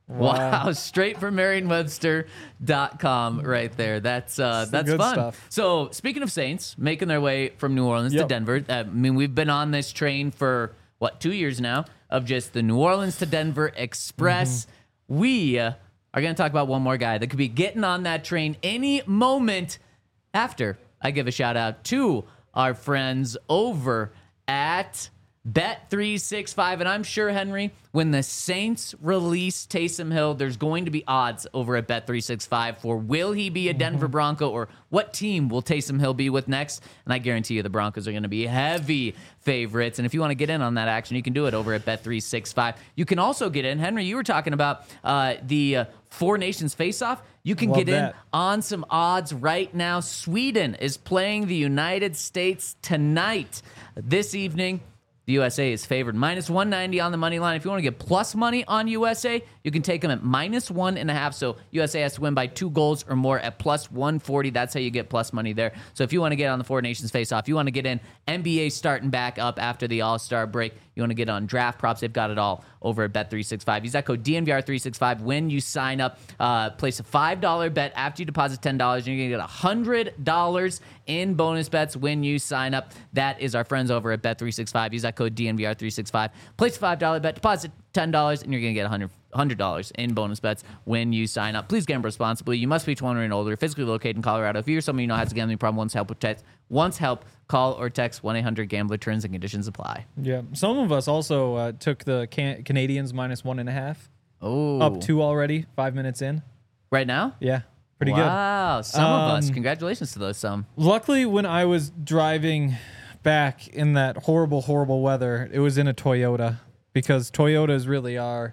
Wow, straight from Merriam Webster dot com right there. That's uh, the that's good fun. stuff. So speaking of Saints making their way from New Orleans to Yep. Denver, uh, I mean we've been on this train for what two years now of just the New Orleans to Denver Express. Mm-hmm. We uh, are going to talk about one more guy that could be getting on that train any moment after I give a shout out to our friends over at Bet three sixty-five. And I'm sure, Henry, when the Saints release Taysom Hill, there's going to be odds over at Bet three sixty-five for will he be a Denver Bronco or what team will Taysom Hill be with next? And I guarantee you the Broncos are going to be heavy favorites. And if you want to get in on that action, you can do it over at Bet three sixty-five. You can also get in. Henry, you were talking about uh, the uh, Four Nations face-off. You can Love get in that. on some odds right now. Sweden is playing the United States tonight. This evening, the U S A is favored minus one ninety on the money line. If you want to get plus money on U S A, you can take them at minus one and a half. So U S A has to win by two goals or more at plus one forty. That's how you get plus money there. So if you want to get on the Four Nations face-off, you want to get in N B A starting back up after the All-Star break, you want to get on draft props, they've got it all over at Bet three sixty-five. Use that code D N V R three sixty-five when you sign up. Uh, place a five dollar bet after you deposit ten dollars, and you're going to get one hundred dollars in bonus bets when you sign up. That is our friends over at Bet three sixty-five. Use that code D N V R three sixty-five. Place a five dollar bet, deposit ten dollars, and you're going to get one hundred dollars one hundred dollars in bonus bets when you sign up. Please gamble responsibly. You must be twenty-one and older, physically located in Colorado. If you're someone you know has a gambling problem, wants help with text, wants help, call or text one eight hundred gambler. Terms and conditions apply. Yeah. Some of us also uh, took the can- Canadians minus one and a half. Oh, Up two already, five minutes in. right now? Yeah. Pretty good. Wow, some of us. Um, Congratulations to those some. Luckily, when I was driving back in that horrible, horrible weather, it was in a Toyota because Toyotas really are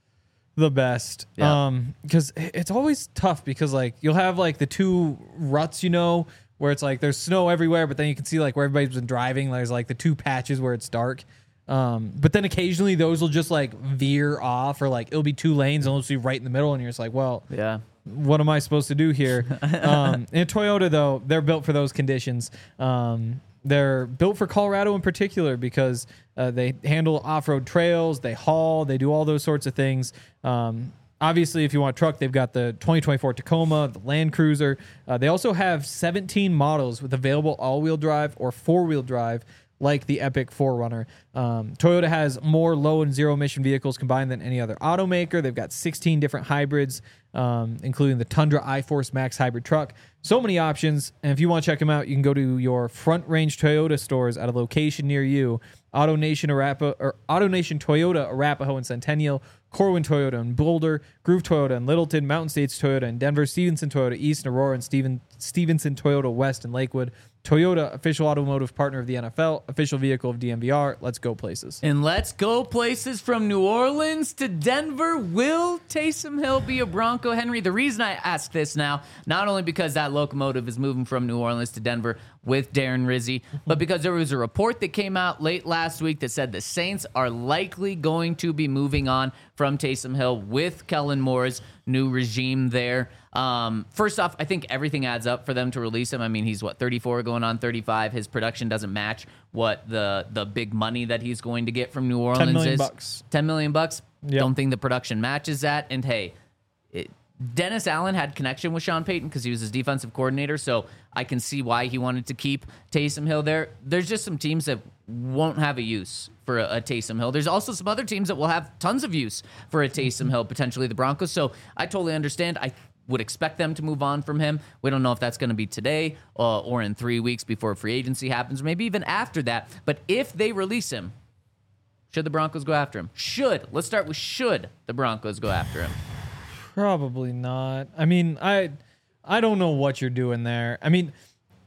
the best. Yeah. Um, because it's always tough because like you'll have like the two ruts, you know, where it's like there's snow everywhere, but then you can see like where everybody's been driving. There's like the two patches where it's dark. Um, but then occasionally those will just like veer off or like it'll be two lanes and it'll just be right in the middle, and you're just like, well, Yeah. what am I supposed to do here? um, in a Toyota, though, they're built for those conditions. Um, they're built for Colorado in particular because uh, they handle off-road trails, they haul, they do all those sorts of things. Um, obviously, if you want a truck, they've got the twenty twenty-four Tacoma, the Land Cruiser. Uh, they also have seventeen models with available all-wheel drive or four-wheel drive, like the Epic four runner. Um, Toyota has more low and zero emission vehicles combined than any other automaker. They've got sixteen different hybrids, um, including the Tundra iForce Max hybrid truck. So many options. And if you want to check them out, you can go to your Front Range Toyota stores at a location near you. AutoNation Arapa, or AutoNation Toyota Arapahoe and Centennial, Corwin Toyota in Boulder, Groove Toyota in Littleton, Mountain States Toyota in Denver, Stevenson Toyota East in Aurora, and Steven, Stevenson Toyota West in Lakewood. Toyota, official automotive partner of the N F L, official vehicle of D M V R. Let's go places. And let's go places from New Orleans to Denver. Will Taysom Hill be a Bronco, Henry? The reason I ask this now, not only because that locomotive is moving from New Orleans to Denver with Darren Rizzi, but because there was a report that came out late last week that said the Saints are likely going to be moving on from Taysom Hill with Kellen Moore's new regime there. Um, first off, I think everything adds up for them to release him. I mean, he's what, thirty-four going on thirty-five. His production doesn't match what the the big money that he's going to get from New Orleans ten million is. bucks. ten million bucks. Yep. Don't think the production matches that. And hey, it, Dennis Allen had connection with Sean Payton because he was his defensive coordinator, so I can see why he wanted to keep Taysom Hill there. There's just some teams that won't have a use for a, a Taysom Hill. There's also some other teams that will have tons of use for a Taysom Hill, potentially the Broncos. So I totally understand. I would expect them to move on from him. We don't know if that's going to be today uh, or in three weeks before free agency happens, or maybe even after that. But if they release him, should the Broncos go after him? Should. Let's start with should the Broncos go after him. Probably not. I mean, I I don't know what you're doing there. I mean,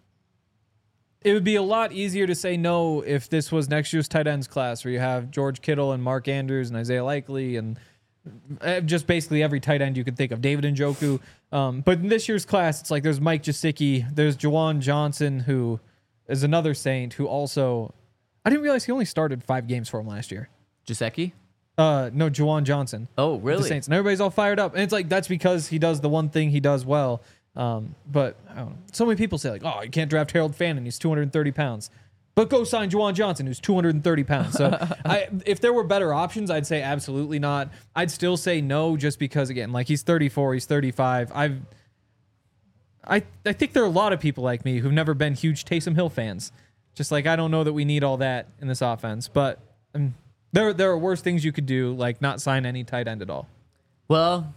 it would be a lot easier to say no if this was next year's tight ends class where you have George Kittle and Mark Andrews and Isaiah Likely and just basically every tight end you could think of, David Njoku. Um, but in this year's class, it's like there's Mike Gesicki, there's Jawan Johnson, who is another Saint who also, I didn't realize he only started five games for him last year. Giuseppe? Uh, no, Jawan Johnson. Oh, The really? Saints. And everybody's all fired up. And it's like, that's because he does the one thing he does well. Um, but I don't know. So many people say like, oh, you can't draft Harold Fannin. He's two hundred thirty pounds. But go sign Juwan Johnson, who's two hundred thirty pounds. So I, if there were better options, I'd say absolutely not. I'd still say no, just because, again, like he's thirty-four, he's thirty-five. I've, I, I think there are a lot of people like me who've never been huge Taysom Hill fans. Just like, I don't know that we need all that in this offense. But um, there, there are worse things you could do, like not sign any tight end at all. Well,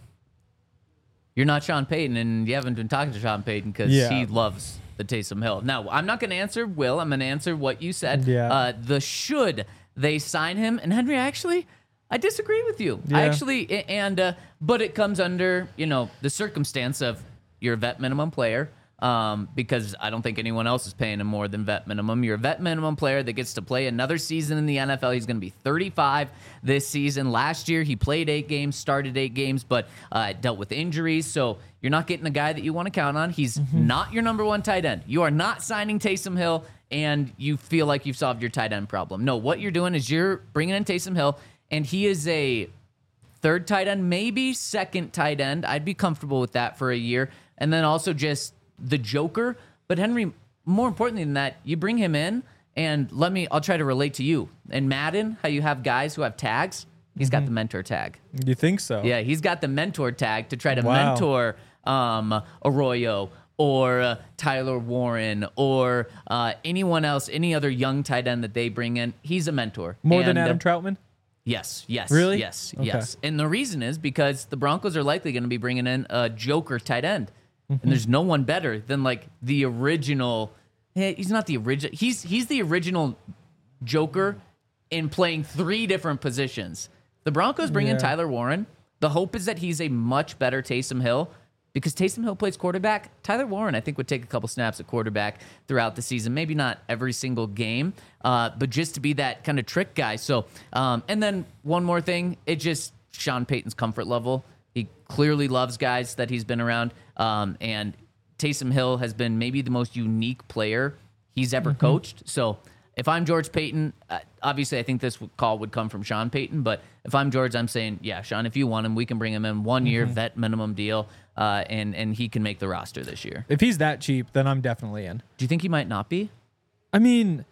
you're not Sean Payton, and you haven't been talking to Sean Payton because Yeah. he loves the Taysom Hill. Now, I'm not going to answer Will. I'm going to answer what you said. Yeah. Uh, the should they sign him? And Henry, actually, I disagree with you. Yeah. I actually, and uh, but it comes under, you know, the circumstance of you're a vet minimum player. Um, because I don't think anyone else is paying him more than vet minimum. You're a vet minimum player that gets to play another season in the N F L. He's going to be thirty-five this season. Last year, he played eight games, started eight games, but uh, dealt with injuries. So you're not getting a guy that you want to count on. He's Mm-hmm. not your number one tight end. You are not signing Taysom Hill, and you feel like you've solved your tight end problem. No, what you're doing is you're bringing in Taysom Hill, and he is a third tight end, maybe second tight end. I'd be comfortable with that for a year. And then also just the Joker. But Henry, more importantly than that, you bring him in, and let me, I'll try to relate to you. In Madden, how you have guys who have tags, he's got the mentor tag. You think so? Yeah, he's got the mentor tag to try to Wow. mentor um, Arroyo or uh, Tyler Warren or uh, anyone else, any other young tight end that they bring in. He's a mentor. More than And, Adam uh, Troutman? Yes, yes, Really? yes, Okay. yes. And the reason is because the Broncos are likely going to be bringing in a Joker tight end. And there's no one better than like the original. Hey, he's not the original. He's he's the original Joker in playing three different positions. The Broncos bring in Yeah. Tyler Warren. The hope is that he's a much better Taysom Hill because Taysom Hill plays quarterback. Tyler Warren, I think, would take a couple snaps at quarterback throughout the season. Maybe not every single game, uh, but just to be that kind of trick guy. So, um, and then one more thing, it just Sean Payton's comfort level. He clearly loves guys that he's been around. Um, and Taysom Hill has been maybe the most unique player he's ever coached. So if I'm George Payton, uh, obviously I think this call would come from Sean Payton. But if I'm George, I'm saying, yeah, Sean, if you want him, we can bring him in one year vet minimum deal, uh, and and he can make the roster this year. If he's that cheap, then I'm definitely in. Do you think he might not be? I mean,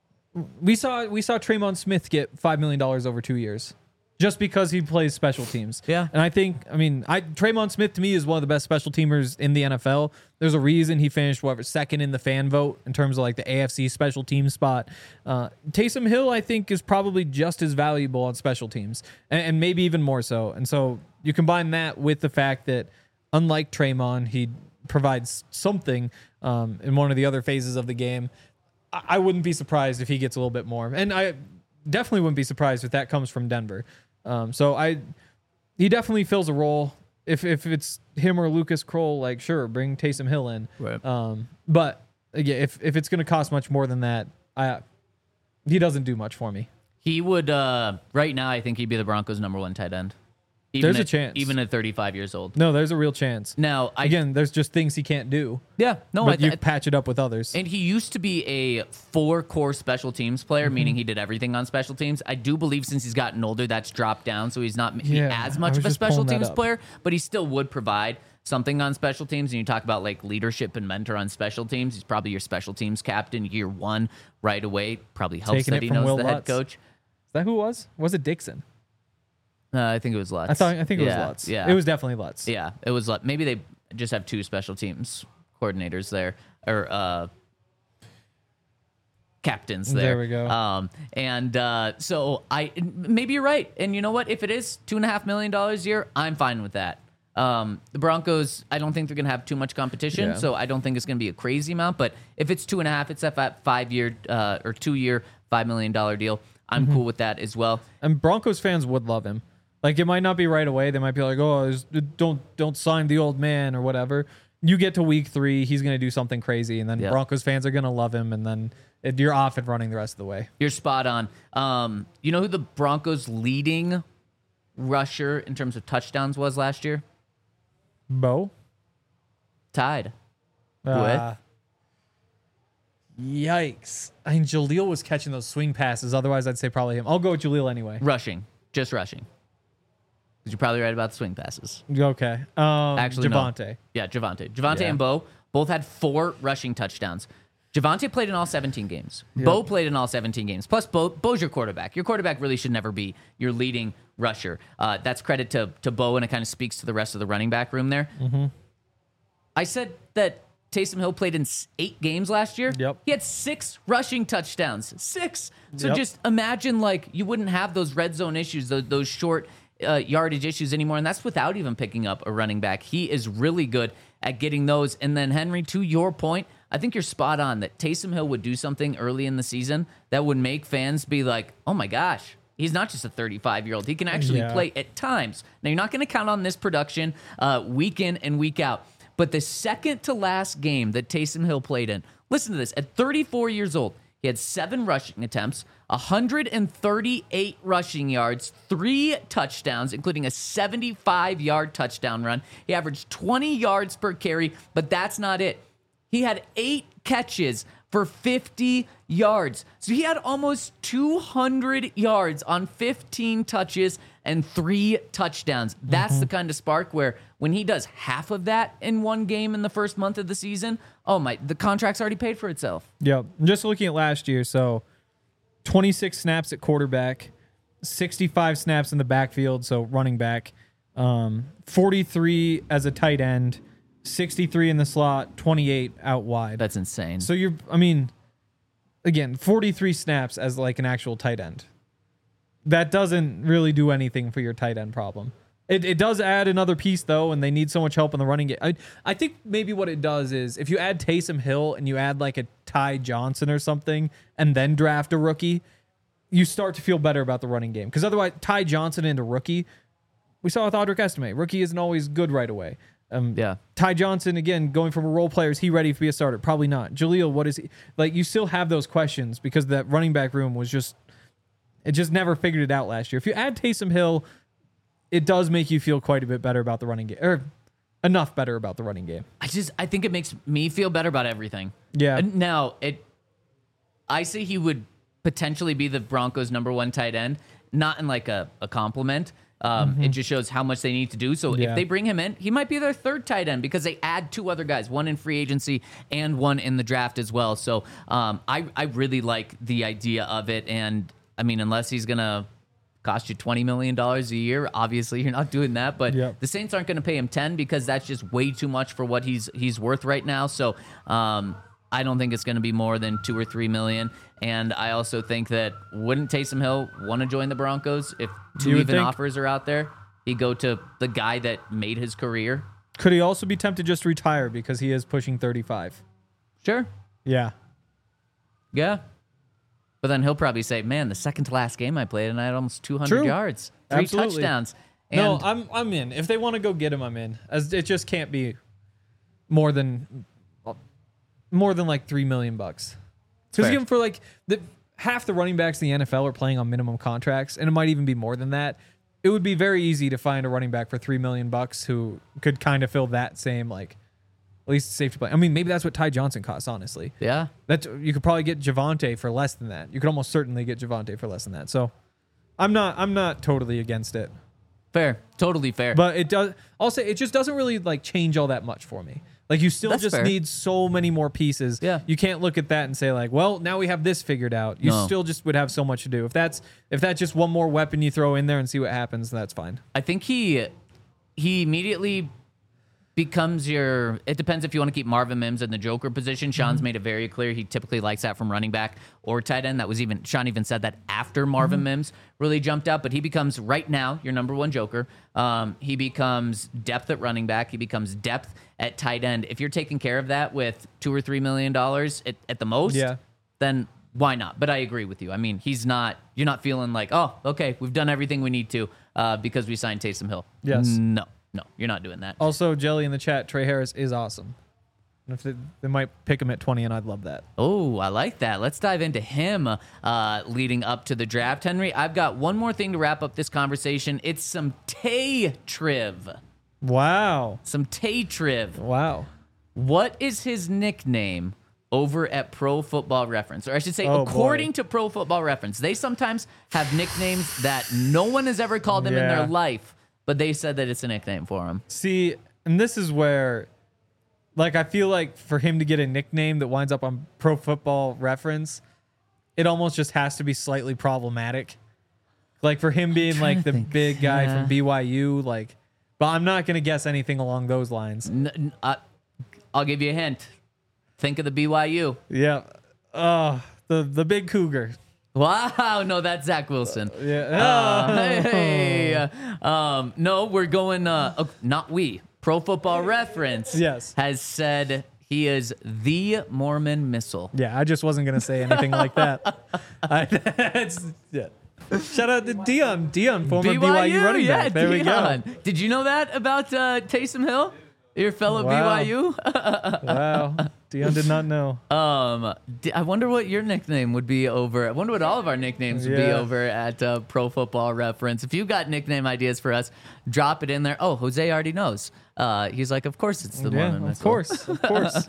we saw we saw Traymon Smith get five million dollars over two years. Just because he plays special teams. Yeah. And I think, I mean, I Traymon Smith to me is one of the best special teamers in the N F L. There's a reason he finished, whatever, second in the fan vote in terms of like the A F C special team spot. Uh, Taysom Hill, I think, is probably just as valuable on special teams, and, and maybe even more so. And so you combine that with the fact that, unlike Traymon, he provides something um, in one of the other phases of the game. I, I wouldn't be surprised if he gets a little bit more. And I definitely wouldn't be surprised if that comes from Denver. Um, so I, he definitely fills a role. If if it's him or Lucas Kroll, like sure, bring Taysom Hill in. Right. Um, but again, if if it's going to cost much more than that, I he doesn't do much for me. He would, uh, right now, I think he'd be the Broncos' number one tight end. Even There's a at, chance. Even at thirty-five years old. No, there's a real chance. Now, I, Again, there's just things he can't do. yeah, no, but I, you I, patch it up with others. And he used to be a four core special teams player, Mm-hmm. meaning he did everything on special teams. I do believe since he's gotten older, that's dropped down, so he's not maybe Yeah, as I much was of a just special pulling that teams up. player, but he still would provide something on special teams. And you talk about like leadership and mentor on special teams. He's probably your special teams captain year one right away. Probably helps Taking that it he from knows Will the head Lutz. coach. Is that who it was? Was it Dixon? Uh, I think it was Lutz. I thought I think it yeah, was Lutz. Yeah, It was definitely Lutz. Yeah, it was Lutz. Maybe they just have two special teams coordinators there, or uh, captains there. There we go. Um, and uh, so I maybe you're right. And you know what? If it is two and a half million dollars a year, I'm fine with that. Um, the Broncos, I don't think they're going to have too much competition, Yeah. so I don't think it's going to be a crazy amount. But if it's two and a half, it's a five year uh, or two year, five million dollar deal. I'm Mm-hmm. cool with that as well. And Broncos fans would love him. Like it might not be right away. They might be like, "Oh, there's- don't don't sign the old man or whatever." You get to week three, he's going to do something crazy, and then Yeah. Broncos fans are going to love him, and then it, you're off and running the rest of the way. You're spot on. Um, you know who the Broncos' leading rusher in terms of touchdowns was last year? Bo, Tied. Ah. Yikes! I mean, Jaleel was catching those swing passes. Otherwise, I'd say probably him. I'll go with Jaleel anyway. Rushing. Just rushing. Because you're probably right about the swing passes. Okay. Um, Actually, no. Javante. Yeah, Javante. Javante Yeah. and Bo both had four rushing touchdowns. Javonte played in all seventeen games. Bo played in all seventeen games. Plus, Bo, Bo's your quarterback. Your quarterback really should never be your leading rusher. Uh, that's credit to, to Bo, and it kind of speaks to the rest of the running back room there. Mm-hmm. I said that Taysom Hill played in eight games last year. Yep. He had six rushing touchdowns. Six. So Yep. just imagine, like, you wouldn't have those red zone issues, those, those short uh, yardage issues anymore, and that's without even picking up a running back. He is really good at getting those. And then, Henry, to your point, I think you're spot on that Taysom Hill would do something early in the season that would make fans be like, oh my gosh, he's not just a thirty-five-year-old. He can actually Yeah. play at times. Now, you're not going to count on this production uh, week in and week out. But the second to last game that Taysom Hill played in, listen to this, at thirty-four years old, he had seven rushing attempts, one hundred thirty-eight rushing yards, three touchdowns, including a seventy-five-yard touchdown run. He averaged twenty yards per carry, but that's not it. He had eight catches for fifty yards. So he had almost two hundred yards on fifteen touches and three touchdowns. That's Mm-hmm. the kind of spark where when he does half of that in one game in the first month of the season, oh my, the contract's already paid for itself. Yep. Just looking at last year, so twenty-six snaps at quarterback, sixty-five snaps in the backfield, so running back, um, forty-three as a tight end, sixty-three in the slot, twenty-eight out wide. That's insane. So you're, I mean, again, forty-three snaps as like an actual tight end. That doesn't really do anything for your tight end problem. It, it does add another piece, though, and they need so much help in the running game. I, I think maybe what it does is if you add Taysom Hill and you add like a Ty Johnson or something and then draft a rookie, you start to feel better about the running game. Because otherwise, Ty Johnson and a rookie, we saw with Audric Estime, rookie isn't always good right away. Um, Yeah. Ty Johnson, again, going from a role player, is he ready to be a starter? Probably not. Jaleel, what is he? Like, you still have those questions because that running back room was just, it just never figured it out last year. If you add Taysom Hill, it does make you feel quite a bit better about the running game, or enough better about the running game. I just, I think it makes me feel better about everything. Yeah. And now, it, I say he would potentially be the Broncos' number one tight end, not in like a, a compliment. Um, It just shows how much they need to do. So Yeah. if they bring him in, he might be their third tight end because they add two other guys, one in free agency and one in the draft as well. So um, I, I really like the idea of it. And I mean, unless he's going to cost you twenty million dollars a year, obviously you're not doing that. But Yep. the Saints aren't going to pay him ten because that's just way too much for what he's he's worth right now. So um, I don't think it's going to be more than two or three million. And I also think that wouldn't Taysom Hill want to join the Broncos if two You would even think. offers are out there? He'd go to the guy that made his career. Could he also be tempted just to retire because he is pushing thirty-five? Sure. Yeah. Yeah. But then he'll probably say, man, the second to last game I played and I had almost two hundred True. yards, three Absolutely. touchdowns. No, And I'm I'm in. If they want to go get him, I'm in. As it just can't be more than more than like three million bucks. Because fair. even for like the half the running backs in the N F L are playing on minimum contracts, and it might even be more than that. It would be very easy to find a running back for three million bucks who could kind of fill that same like at least safety play. I mean, maybe that's what Ty Johnson costs. Honestly, yeah. that you could probably get Javonte for less than that. You could almost certainly get Javonte for less than that. So, I'm not I'm not totally against it. Fair. Totally fair. But it does. I'll say it just doesn't really like change all that much for me. Like you still That's just fair. need so many more pieces. Yeah. You can't look at that and say like, well, now we have this figured out. You No. still just would have so much to do. If that's if that's just one more weapon you throw in there and see what happens, that's fine. I think he he immediately becomes your. It depends if you want to keep Marvin Mims in the Joker position. Sean's Mm-hmm. made it very clear he typically likes that from running back or tight end. That was even Sean even said that after Marvin Mm-hmm. Mims really jumped out, but he becomes right now your number one Joker. Um, he becomes depth at running back. He becomes depth at tight end. If you're taking care of that with two or three million dollars at, at the most, Yeah. then why not? But I agree with you. I mean, he's not. You're not feeling like, oh, okay, we've done everything we need to uh, because we signed Taysom Hill. Yes. No, no, you're not doing that. Also, Jelly in the chat, Trey Harris is awesome. And if they, they might pick him at twenty, and I'd love that. Oh, I like that. Let's dive into him uh, leading up to the draft. Henry, I've got one more thing to wrap up this conversation. It's some Tay Triv. Wow. Some Tay Triv. Wow. What is his nickname over at Pro Football Reference? Or I should say, Oh, according boy. to Pro Football Reference, they sometimes have nicknames that no one has ever called him in Yeah. their life, but they said that it's a nickname for him. See, and this is where like I feel like for him to get a nickname that winds up on Pro Football Reference, it almost just has to be slightly problematic. Like for him being like the think, big guy yeah. from B Y U, like, but I'm not gonna guess anything along those lines. N- n- uh, I'll give you a hint. Think of the B Y U. Yeah. Oh, the the big cougar. Wow, no, that's Zach Wilson. Yeah. Uh, hey, um, no, we're going. Uh, uh, not we. Pro Football Reference. Yes. Has said he is the Mormon Missile. Yeah, I just wasn't gonna say anything like that. I, it's, yeah. Shout out to Dion. Dion, former B Y U, running yeah, back. There Dion. we go. Did you know that about uh, Taysom Hill, your fellow Wow. B Y U? Wow. Dion did not know. Um, d- I wonder what your nickname would be over. I wonder what all of our nicknames would be Yeah. over at uh, Pro Football Reference. If you got nickname ideas for us, drop it in there. Oh, Jose already knows. Uh, he's like, of course it's the Yeah, Mormon of Missile. course, of course.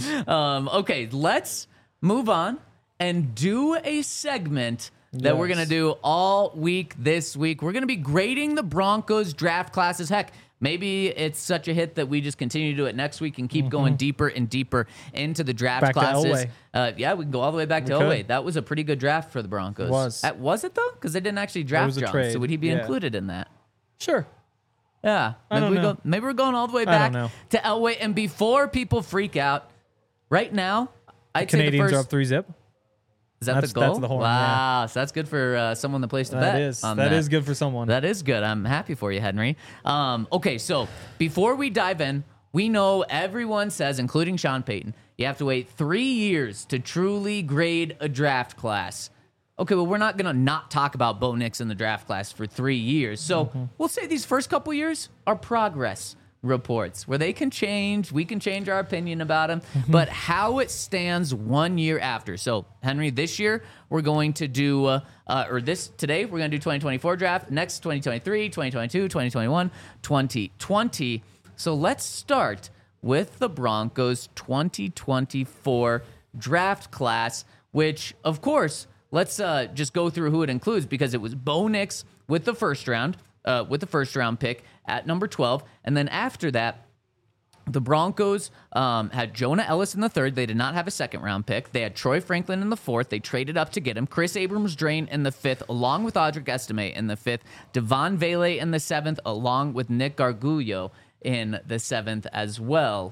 Um, okay, let's move on and do a segment that we're Yes. going to do all week this week. We're going to be grading the Broncos draft classes. Heck, maybe it's such a hit that we just continue to do it next week and keep going deeper and deeper into the draft Back to classes. Elway. Uh, yeah, we can go all the way back to We Elway. could. That was a pretty good draft for the Broncos. Was. Uh, was it, though? Because they didn't actually draft was a John. trade. So would he be Yeah. included in that? Sure. Yeah. I Maybe, don't we know. Go, maybe we're going all the way I back don't know. to Elway. And before people freak out, right now, I'd say the Canadians first... are up three zip. Is that That's- the goal? that's the horn, wow, so that's good for uh, someone that placed a bet. That is. on That is good for someone. That is good. I'm happy for you, Henry. Um, okay, so before we dive in, we know everyone says, including Sean Payton, you have to wait three years to truly grade a draft class. Okay, well, we're not going to not talk about Bo Nix in the draft class for three years. So Mm-hmm. we'll say these first couple years are progress reports where they can change. We can change our opinion about them, Mm-hmm. but how it stands one year after. So, Henry, this year we're going to do, uh, uh, or this today, we're going to do twenty twenty-four draft, next twenty twenty-three, twenty twenty-two, twenty twenty-one, twenty twenty. So let's start with the Broncos twenty twenty-four draft class, which, of course, let's uh, just go through who it includes because it was Bo Nix with the first round, uh, with the first round pick at number twelve. And then after that, the Broncos um, had Jonah Ellis in the third. They did not have a second round pick. They had Troy Franklin in the fourth. They traded up to get him. Chris Abrams-Drain in the fifth, along with Audric Estime in the fifth. Devon Vele in the seventh, along with Nick Garguglio in the seventh as well.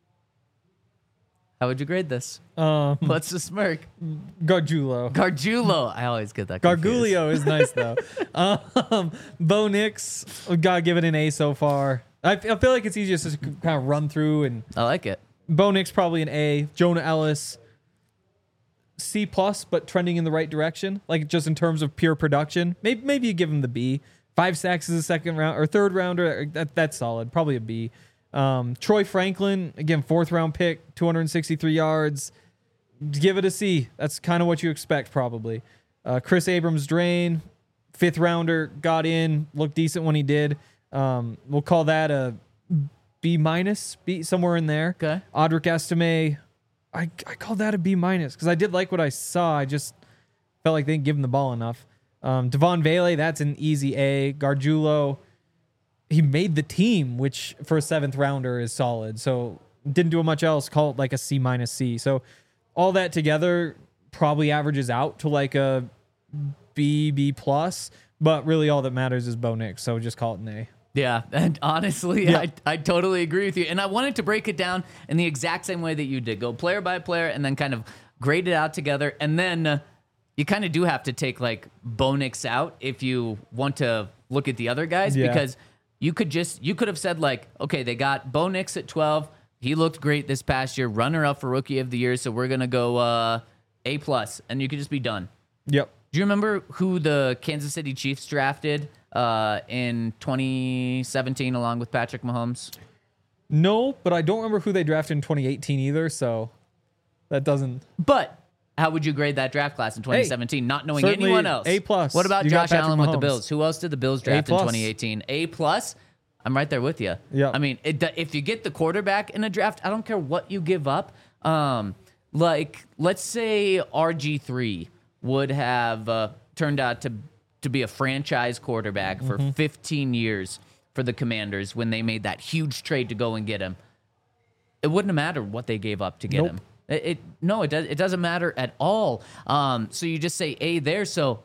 How would you grade this? Um, What's the smirk? Gargiulo. Gargiulo. I always get that confused. Gargulio is nice though. um, Bo Nix, we gotta give it an A so far. I, f- I feel like it's easiest to kind of run through, and I like it. Bo Nix probably an A. Jonah Ellis, C plus, but trending in the right direction. Like just in terms of pure production, maybe maybe you give him the B. Five sacks is a second round or third rounder. That that's solid. Probably a B. Um, Troy Franklin, again, fourth round pick, two hundred sixty-three yards. Give it a C. That's kind of what you expect, probably. Uh, Chris Abrams-Drain, fifth rounder, got in, looked decent when he did. Um, we'll call that a B minus, B somewhere in there. Okay. Audric Estime, I I called that a B minus because I did like what I saw. I just felt like they didn't give him the ball enough. Um, Devon Vele, that's an easy A. Gargiulo, he made the team, which for a seventh rounder is solid. So didn't do much else. Call it like a C minus C. So all that together probably averages out to like a B, B plus. But really all that matters is Bo Nix. So just call it an A. Yeah, and honestly, Yeah. I, I totally agree with you. And I wanted to break it down in the exact same way that you did. Go player by player and then kind of grade it out together. And then uh, you kind of do have to take like Bo Nix out if you want to look at the other guys Yeah. because you could just, you could have said like, okay, they got Bo Nix at twelve. He looked great this past year, runner up for rookie of the year. So we're going to go uh, A plus and you could just be done. Yep. Do you remember who the Kansas City Chiefs drafted uh, in twenty seventeen along with Patrick Mahomes? No, but I don't remember who they drafted in twenty eighteen either. So that doesn't. But how would you grade that draft class in twenty seventeen, not knowing certainly anyone else? A plus. What about You got Josh Patrick Allen with the Mahomes. Bills? Who else did the Bills draft in plus. twenty eighteen? A plus. I'm right there with you. Yeah. I mean, it, if you get the quarterback in a draft, I don't care what you give up. Um, like, let's say R G three would have uh, turned out to to be a franchise quarterback for Mm-hmm. fifteen years for the Commanders when they made that huge trade to go and get him. it wouldn't have mattered what they gave up to get Nope. him. It, it no, it does. It doesn't matter at all. Um, so you just say A there. So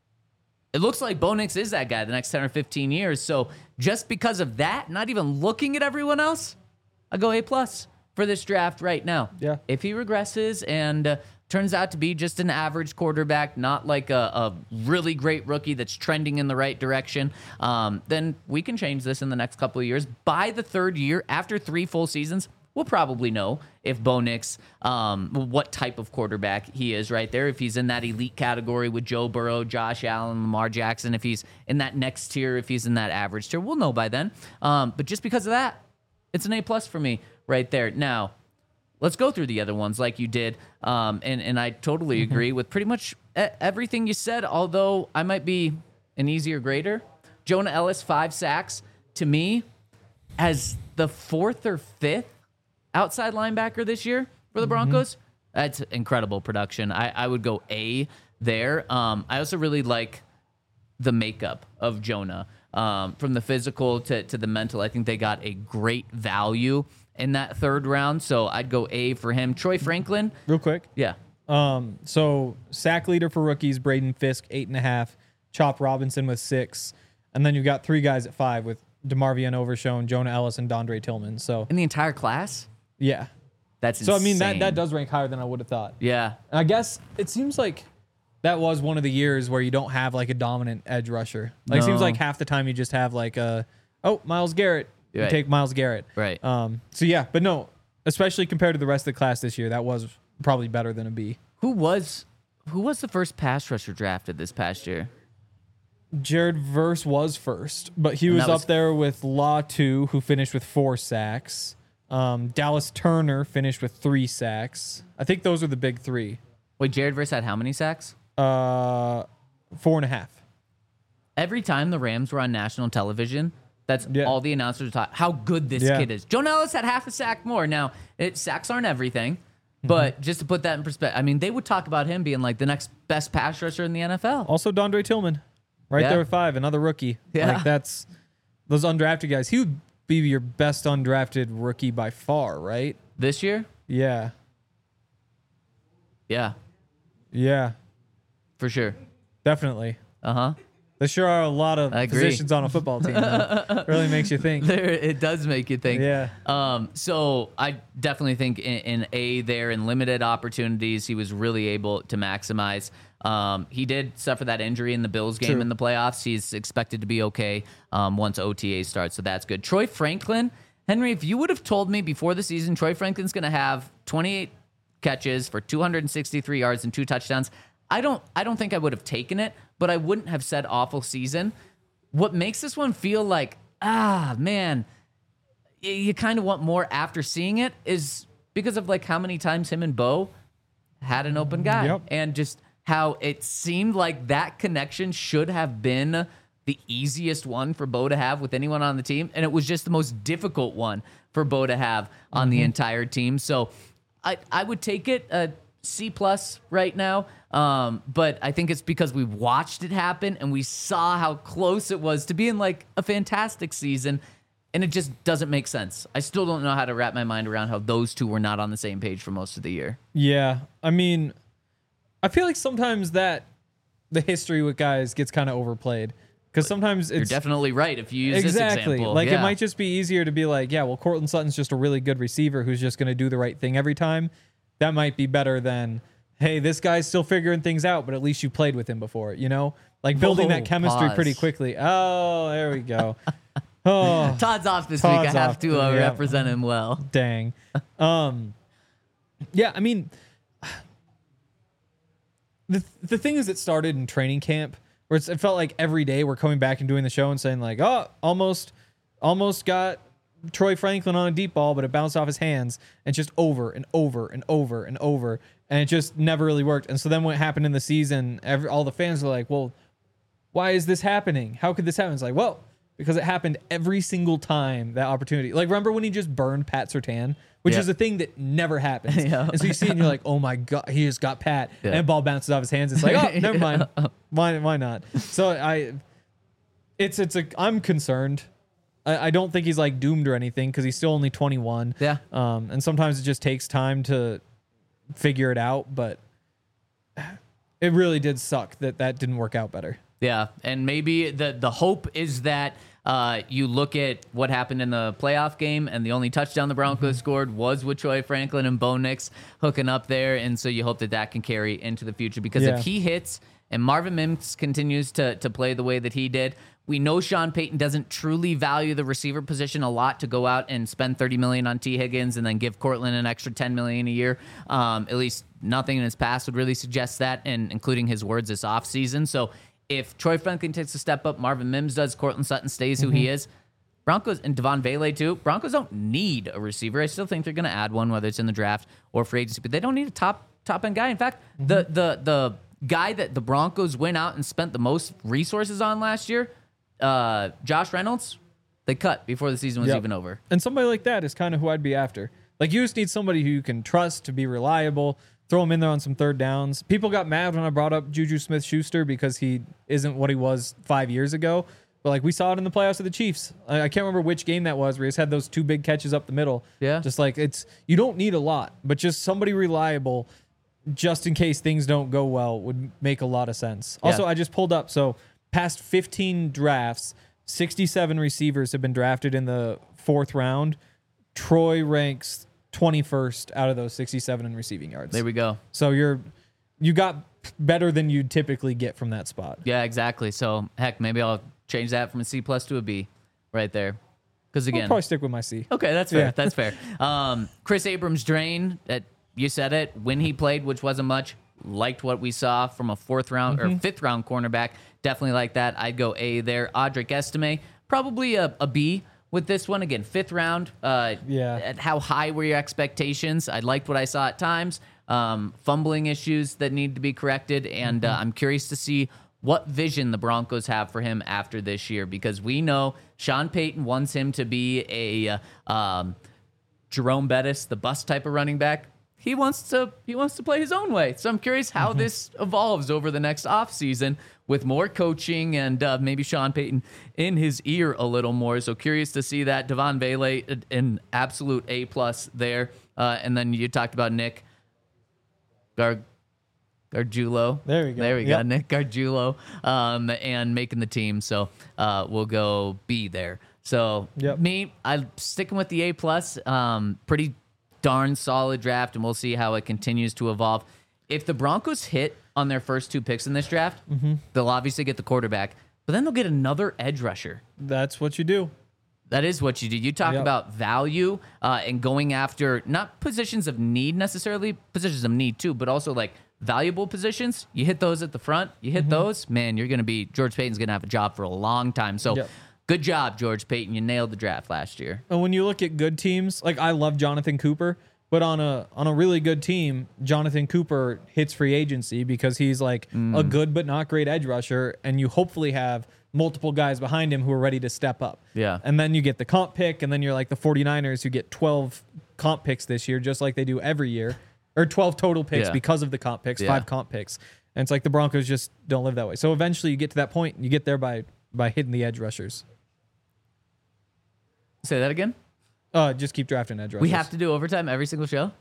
it looks like Bo Nix is that guy the next ten or fifteen years. So just because of that, not even looking at everyone else, I go A plus for this draft right now. Yeah. If he regresses and uh, turns out to be just an average quarterback, not like a, a really great rookie that's trending in the right direction, um, then we can change this in the next couple of years. By the third year, after three full seasons, we'll probably know if Bo Nix, um, what type of quarterback he is right there. If he's in that elite category with Joe Burrow, Josh Allen, Lamar Jackson, if he's in that next tier, if he's in that average tier, we'll know by then. Um, but just because of that, it's an A plus for me right there. Now, let's go through the other ones like you did. Um, and, and I totally agree with pretty much e- everything you said, although I might be an easier grader. Jonah Ellis, five sacks. To me, as the fourth or fifth outside linebacker this year for the Broncos, that's incredible production. I, I would go A there. Um, I also really like the makeup of Jonah. Um, from the physical to, to the mental, I think they got a great value in that third round. So I'd go A for him. Troy Franklin. Real quick. Yeah. Um, so sack leader for rookies, Braden Fisk, eight and a half, Chop Robinson with six. And then you've got three guys at five with DeMarvion Overshown, Jonah Ellis, and Dondre Tillman. So In the entire class? yeah. That's So I mean that insane. that does rank higher than I would have thought. Yeah. And I guess it seems like that was one of the years where you don't have like a dominant edge rusher. Like it seems No. like half the time you just have like a oh Myles Garrett. You Right. take Myles Garrett. Right. Um. So yeah, but no, especially compared to the rest of the class this year, that was probably better than a B. Who was who was the first pass rusher drafted this past year? Jared Verse was first, but he And was that up was- there with Law two, who finished with four sacks. Um, Dallas Turner finished with three sacks. I think those are the big three. Wait, Jared Verse had how many sacks? Uh, four and a half. Every time the Rams were on national television, that's Yeah. all the announcers would talk how good this Yeah. kid is. Jonah Ellis had half a sack more. Now, it, sacks aren't everything, Mm-hmm. but just to put that in perspective, I mean, they would talk about him being like the next best pass rusher in the N F L. Also, Dondre Tillman, right Yeah. there with five, another rookie. Yeah. Like that's those undrafted guys. He would be your best undrafted rookie by far, right? This year? Yeah, Yeah, yeah, for sure. definitely. Uh huh. There sure are a lot of I agree. positions on a football team. Though. Really makes you think. There, it does make you think. Yeah. Um. So I definitely think in, in A there in limited opportunities, he was really able to maximize. Um. He did suffer that injury in the Bills game True. in the playoffs. He's expected to be okay. Um. Once O T A starts, so that's good. Troy Franklin, Henry. If you would have told me before the season, Troy Franklin's going to have twenty-eight catches for two hundred sixty-three yards and two touchdowns, I don't. I don't think I would have taken it. But I wouldn't have said awful season. What makes this one feel like, ah, man, y- you kind of want more after seeing it is because of like how many times him and Bo had an open guy. Yep. And just how it seemed like that connection should have been the easiest one for Bo to have with anyone on the team. And it was just the most difficult one for Bo to have on the entire team. So I, I would take it a C plus right now. Um, but I think it's because we watched it happen and we saw how close it was to being like a fantastic season. And it just doesn't make sense. I still don't know how to wrap my mind around how those two were not on the same page for most of the year. Yeah, I mean, I feel like sometimes that the history with guys gets kind of overplayed because sometimes You're it's definitely right if you use exactly this example. like Yeah. it might just be easier to be like, yeah, well, Cortland Sutton's just a really good receiver who's just going to do the right thing every time. That might be better than, hey, this guy's still figuring things out, but at least you played with him before, you know? Like building Whoa, that chemistry pause. pretty quickly. Oh, there we go. Oh, Todd's off this Todd's week. I have off. to uh, Yeah. represent him well. dang. Um, yeah, I mean, the the thing is, it started in training camp where it's, it felt like every day we're coming back and doing the show and saying like, oh, almost, almost got Troy Franklin on a deep ball, but it bounced off his hands, and just over and over and over and over, and it just never really worked. And so then what happened in the season, every, all the fans were like, well, why is this happening? How could this happen? It's like, well, because it happened every single time that opportunity. Like, remember when he just burned Pat Surtain, which Yeah. is a thing that never happens. Yeah. And so you see it and you're like, oh my God, he just got Pat. Yeah. And the ball bounces off his hands. It's like, oh, never mind. Why, why not? So I, it's, it's a, I'm concerned I, I don't think he's like doomed or anything because he's still only twenty-one. Yeah. Um, and sometimes it just takes time to figure it out, but it really did suck that that didn't work out better. Yeah, and maybe the the hope is that uh, you look at what happened in the playoff game, and the only touchdown the Broncos Mm-hmm. scored was with Troy Franklin and Bo Nix hooking up there, and so you hope that that can carry into the future because Yeah. if he hits and Marvin Mims continues to to play the way that he did, we know Sean Payton doesn't truly value the receiver position a lot to go out and spend thirty million dollars on T. Higgins and then give Cortland an extra ten million dollars a year. Um, at least nothing in his past would really suggest that, and including his words this offseason. So if Troy Franklin takes a step up, Marvin Mims does, Cortland Sutton stays who Mm-hmm. he is, Broncos and Devon Vele too. Broncos don't need a receiver. I still think they're going to add one, whether it's in the draft or free agency, but they don't need a top top end guy. In fact, Mm-hmm. the the the guy that the Broncos went out and spent the most resources on last year, uh, Josh Reynolds, they cut before the season was Yep. even over. And somebody like that is kind of who I'd be after. Like, you just need somebody who you can trust to be reliable, throw him in there on some third downs. People got mad when I brought up Juju Smith-Schuster because he isn't what he was five years ago. But, like, we saw it in the playoffs of the Chiefs. I, I can't remember which game that was where he just had those two big catches up the middle. Yeah. Just like, it's, you don't need a lot, but just somebody reliable just in case things don't go well would make a lot of sense. Also, Yeah. I just pulled up. So, past fifteen drafts, sixty-seven receivers have been drafted in the fourth round. Troy ranks twenty-first out of those sixty-seven in receiving yards. There we go. So you're you got better than you'd typically get from that spot. Yeah, exactly. So heck, maybe I'll change that from a C plus to a B right there. Because I'll again, probably stick with my C. okay, that's fair. Yeah. That's fair. Um, Chris Abrams drain that you said it when he played, which wasn't much. Liked what we saw from a fourth round Mm-hmm. or fifth round cornerback. Definitely like that. I'd go A there. Audric Estime, probably a, a B with this one. Again, fifth round. Uh, Yeah. At how high were your expectations? I liked what I saw at times. Um, fumbling issues that need to be corrected, and uh, I'm curious to see what vision the Broncos have for him after this year, because we know Sean Payton wants him to be a uh, um, Jerome Bettis, the bust type of running back. He wants to he wants to play his own way. So I'm curious how this evolves over the next offseason with more coaching and uh, maybe Sean Payton in his ear a little more. So curious to see that. Devon Vele, an absolute A plus there. Uh, and then you talked about Nick Gar- Gargiulo. There we go. There we Yep. go. Nick Gargiulo um, and making the team. So uh, we'll go B there. So Yep. me, I'm sticking with the A plus. Um, pretty darn solid draft, and we'll see how it continues to evolve. If the Broncos hit on their first two picks in this draft, Mm-hmm. they'll obviously get the quarterback, but then they'll get another edge rusher. That's what you do. That is what you do. You talk Yep. about value uh, and going after not positions of need necessarily, positions of need too, but also like valuable positions. You hit those at the front, you hit those, man, you're going to be, George Payton's going to have a job for a long time. So Yep. good job, George Payton. You nailed the draft last year. And when you look at good teams, like I love Jonathan Cooper, but on a on a really good team, Jonathan Cooper hits free agency because he's like a good but not great edge rusher, and you hopefully have multiple guys behind him who are ready to step up. Yeah. And then you get the comp pick, and then you're like the 49ers who get twelve comp picks this year, just like they do every year, or twelve total picks Yeah. because of the comp picks, Yeah. five comp picks. And it's like the Broncos just don't live that way. So eventually you get to that point, and you get there by by hitting the edge rushers. Say that again? Uh, just keep drafting edge rushers. We have to do overtime every single show?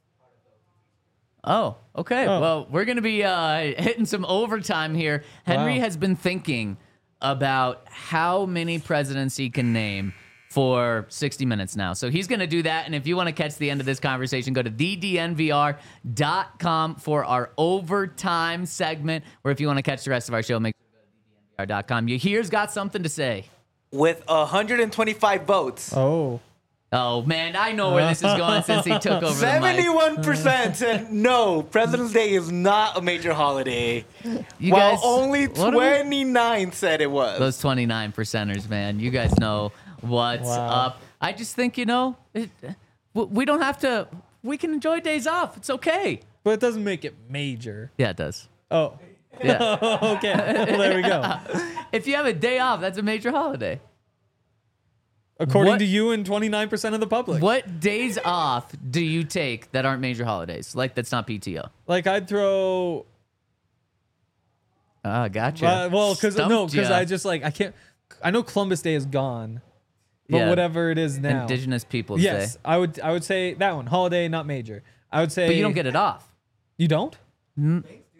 Oh, okay. Oh. Well, we're going to be uh, hitting some overtime here. Henry Wow. has been thinking about how many presidents he can name for sixty minutes now. So he's going to do that. And if you want to catch the end of this conversation, go to the d n v r dot com for our overtime segment. Or if you want to catch the rest of our show, make sure to go to d d n v r dot com. You here's got something to say. With one hundred twenty-five votes, Oh. Oh, man, I know where this is going since he took over the mic. seventy-one percent said no, President's Day is not a major holiday. You while guys- only what are we- twenty-nine said it was. Those twenty-nine percenters, man. You guys know what's Wow. up. I just think, you know, it, w- we don't have to, we can enjoy days off. It's okay. But it doesn't make it major. Yeah, it does. Oh. Yeah. Okay. Well, there we go. If you have a day off, that's a major holiday. According What- to you and twenty-nine percent of the public. What days off do you take that aren't major holidays? Like, that's not P T O. Like I'd throw Ah, gotcha. uh, well, cuz no, Stumped cuz ya. I just like I can't I know Columbus Day is gone. but Yeah. whatever it is now. Indigenous Peoples Yes, Day. I would I would say that one. Holiday, not major. I would say But you don't get it off. You don't? Mm.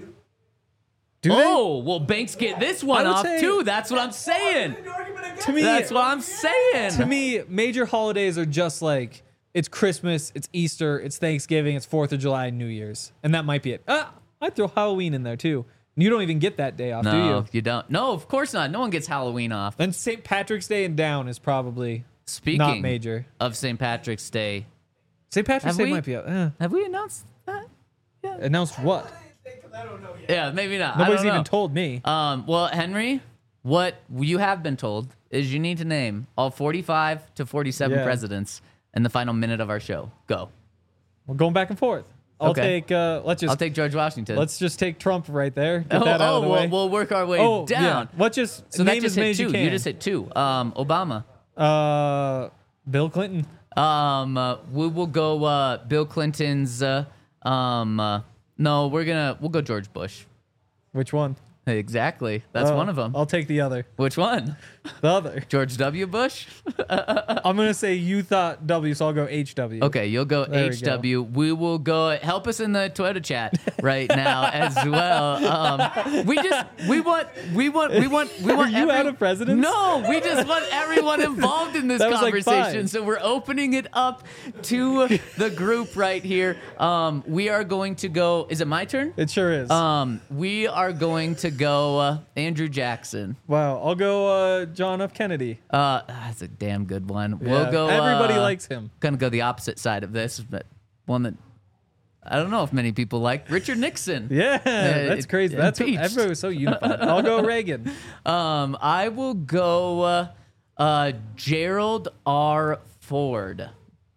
Do they? Oh, well, Banks get this one I would off say- too. That's what I'm saying. To me, That's what I'm saying. to me, major holidays are just like it's Christmas, it's Easter, it's Thanksgiving, it's Fourth of July, and New Year's, and that might be it. Ah, I'd throw Halloween in there too. You don't even get that day off, do No, you? you don't. No, of course not. No one gets Halloween off. Then Saint Patrick's Day and down is probably Speaking not major. of Saint Patrick's Day, Saint Patrick's Have Day we? might be. Uh, have we announced that? announced what? Yeah, maybe not. I Nobody's don't know. even told me. Um, well, Henry, what you have been told is you need to name all forty-five to forty-seven Yeah. presidents in the final minute of our show. Go. We're going back and forth. I'll Okay. take. Uh, let's just I'll take George Washington. let's just take Trump right there. Get oh, that out oh of the we'll, way. we'll work our way oh, down. yeah. Let's just So name that just as many hit as two. you You, can. just hit two. Um, Obama. Uh, Bill Clinton. Um, uh, we will go uh, Bill Clinton's. Uh, um, uh, no, we're gonna we'll go George Bush. Which one? Exactly. That's Oh, one of them. I'll take the other. Which one? The other. George W. Bush? I'm gonna say you thought W, so I'll go H W. Okay, you'll go There we H W. We, will go. Help us in the Twitter chat right now as well. Um, we just we want we want we want we want. you out of presidents? No, we just want everyone involved in this That was like conversation. five. So we're opening it up to the group right here. Um, we are going to go. Is it my turn? It sure is. Um, we are going to go uh, Andrew Jackson. wow. I'll go uh, John F. Kennedy. Uh, that's a damn good one. Yeah. We'll go. Everybody uh, likes him. Gonna go the opposite side of this, but one that I don't know if many people like. Richard Nixon. Yeah, that's it- crazy. That's what, impeached. everybody was so unified. I'll go Reagan. Um, I will go uh, uh, Gerald R. Ford.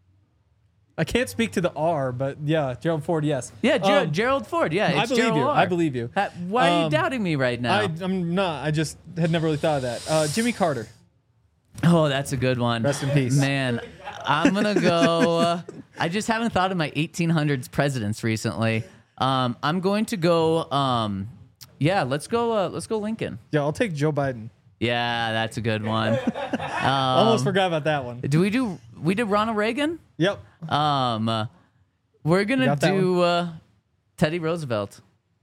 I can't speak to the R, but yeah, Gerald Ford, yes. Yeah, Ger- Um, Gerald Ford. Yeah, I it's believe Gerald you. R. I believe you. Ha- Why are you Um, doubting me right now? I, I'm not. I just had never really thought of that. Uh, Jimmy Carter. Oh, that's a good one. Rest in peace. Man, I'm going to go. Uh, I just haven't thought of my eighteen hundreds presidents recently. Um, I'm going to go. Um, yeah, let's go. Uh, let's go Lincoln. Yeah, I'll take Joe Biden. Yeah, that's a good one. Almost forgot about that one. Do we do? We did Ronald Reagan. Yep. Um, uh, we're gonna got that do uh, Teddy Roosevelt.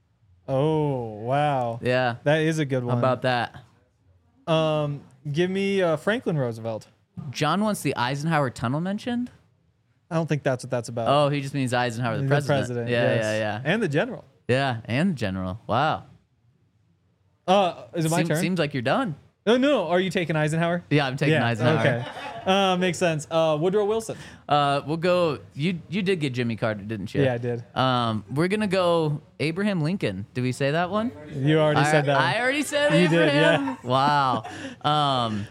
Oh wow. Yeah, That is a good how one. about that? Um, give me uh, Franklin Roosevelt. John wants the Eisenhower tunnel mentioned. I don't think that's what that's about. Oh, he just means Eisenhower, the, The president. Yeah, yes. yeah, yeah, And the general. yeah, and the general. Wow. Uh, is it my Seems, turn? seems like you're done. Oh no, are you taking Eisenhower? Yeah, I'm taking Eisenhower. Okay. Uh, makes sense. Uh, Woodrow Wilson. Uh, we'll go. You you did get Jimmy Carter, didn't you? Yeah, I did. Um, we're gonna go Abraham Lincoln. Did we say that one? You already I, said that. I already said You did, Abraham. yeah. Wow. Um,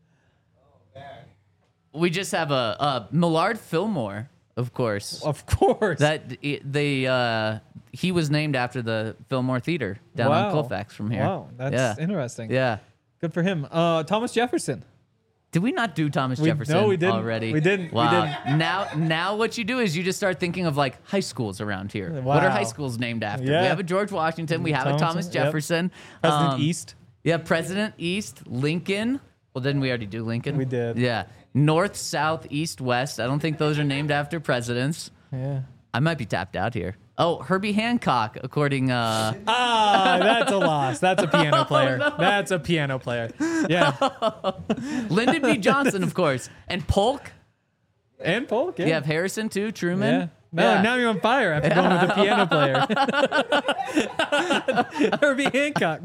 we just have a, a Millard Fillmore, of course. Of course. That they uh, he was named after the Fillmore Theater down on Wow. Colfax from here. Wow, that's yeah. interesting. Yeah. Good for him. Uh, Thomas Jefferson. Did we not do Thomas We- Jefferson no, we didn't. already? We didn't. We Wow. didn't. Now, now what you do is you just start thinking of like high schools around here. What are Wow. high schools named after? Yeah. We have a George Washington. We have a Thomas- Thomas yep. Jefferson. President Um, East. Yeah, President East, Lincoln. Well, didn't we already do Lincoln? We did. Yeah. North, South, East, West. I don't think those are named after presidents. Yeah. I might be tapped out here. Oh, Herbie Hancock, according. Uh, Ah, that's a loss. That's a piano player. That's a piano player. Yeah. Lyndon B. Johnson, of course. And Polk. And Polk. Yeah. You have Harrison, too. Truman. Yeah. No, Yeah. now you're on fire after going with the piano player. Herbie Hancock.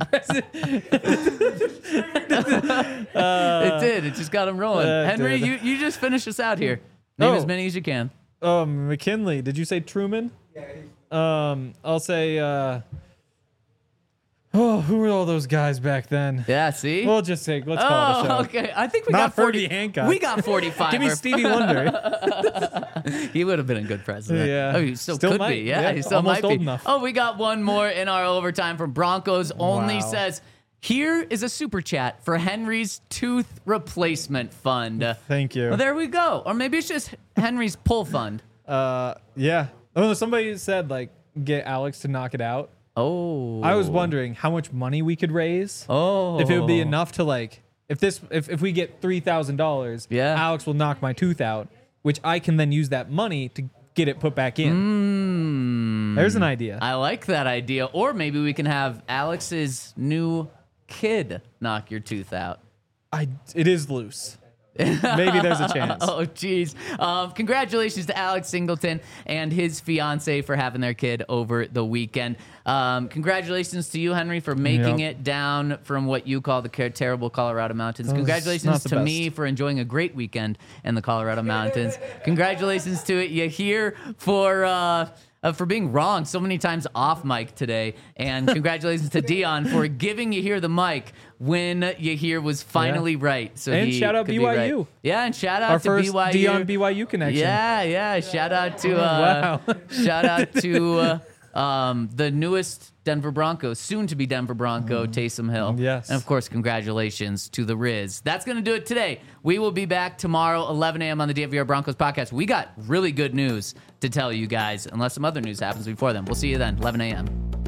it did. It just got him rolling. Uh, Henry, did. you, you just finish us out here. Name Oh. as many as you can. Um, McKinley. Did you say Truman? Yeah. Um, I'll say. Uh, oh, who were all those guys back then? Yeah, see? We'll just say. Let's call it a show. Oh, okay. I think we Not got forty. Herbie Hancock. We got forty-five. Give me or- Stevie Wonder. He would have been a good president. Yeah. Oh, he still, Still could might. be. Yeah, Yeah, he still almost might old be. enough. Oh, we got one more in our overtime from Broncos. Only Wow. says, here is a super chat for Henry's tooth replacement fund. Thank you. Well, there we go. Or maybe it's just Henry's pull fund. Uh, yeah. Oh, somebody said like get Alex to knock it out. Oh. I was wondering how much money we could raise. Oh. If it would be enough to like If this, if, if we get three thousand dollars, Yeah. Alex will knock my tooth out, which I can then use that money to get it put back in. Mm, There's an idea. I like that idea. Or maybe we can have Alex's new kid knock your tooth out. I, it is loose. Maybe there's a chance. Oh, geez. Um, congratulations to Alex Singleton and his fiance for having their kid over the weekend. Um, congratulations to you, Henry, for making Yep. it down from what you call the ca- terrible Colorado mountains. That was Congratulations not the to best. me for enjoying a great weekend in the Colorado mountains. Congratulations to you here for... Uh, Uh, for being wrong so many times off mic today. And congratulations to Dion for giving you here the mic when Yahir was finally right. So And he shout out could B be Y right. U. Yeah, and shout out Our to first B Y U. Dion B Y U connection. Yeah, yeah. Shout out to uh, Wow. shout out to uh, um, the newest Denver Bronco, soon to be Denver Bronco, Taysom Hill. Yes. And of course, congratulations to the Riz. That's going to do it today. We will be back tomorrow, eleven a.m. on the D N V R Broncos podcast. We got really good news to tell you guys, unless some other news happens before then. We'll see you then, eleven a.m.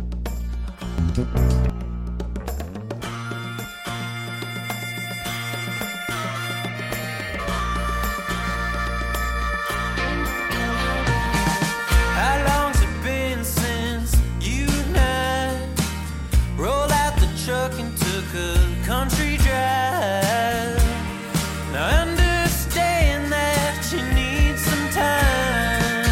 How long's it been since you and I rolled out the truck and took a country drive? Now I understand that you need some time.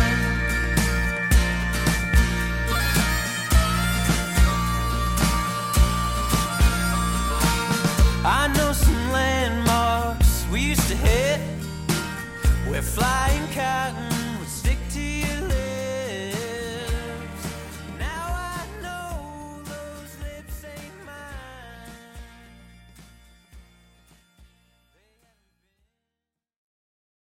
I know some landmarks we used to hit. We're flying cotton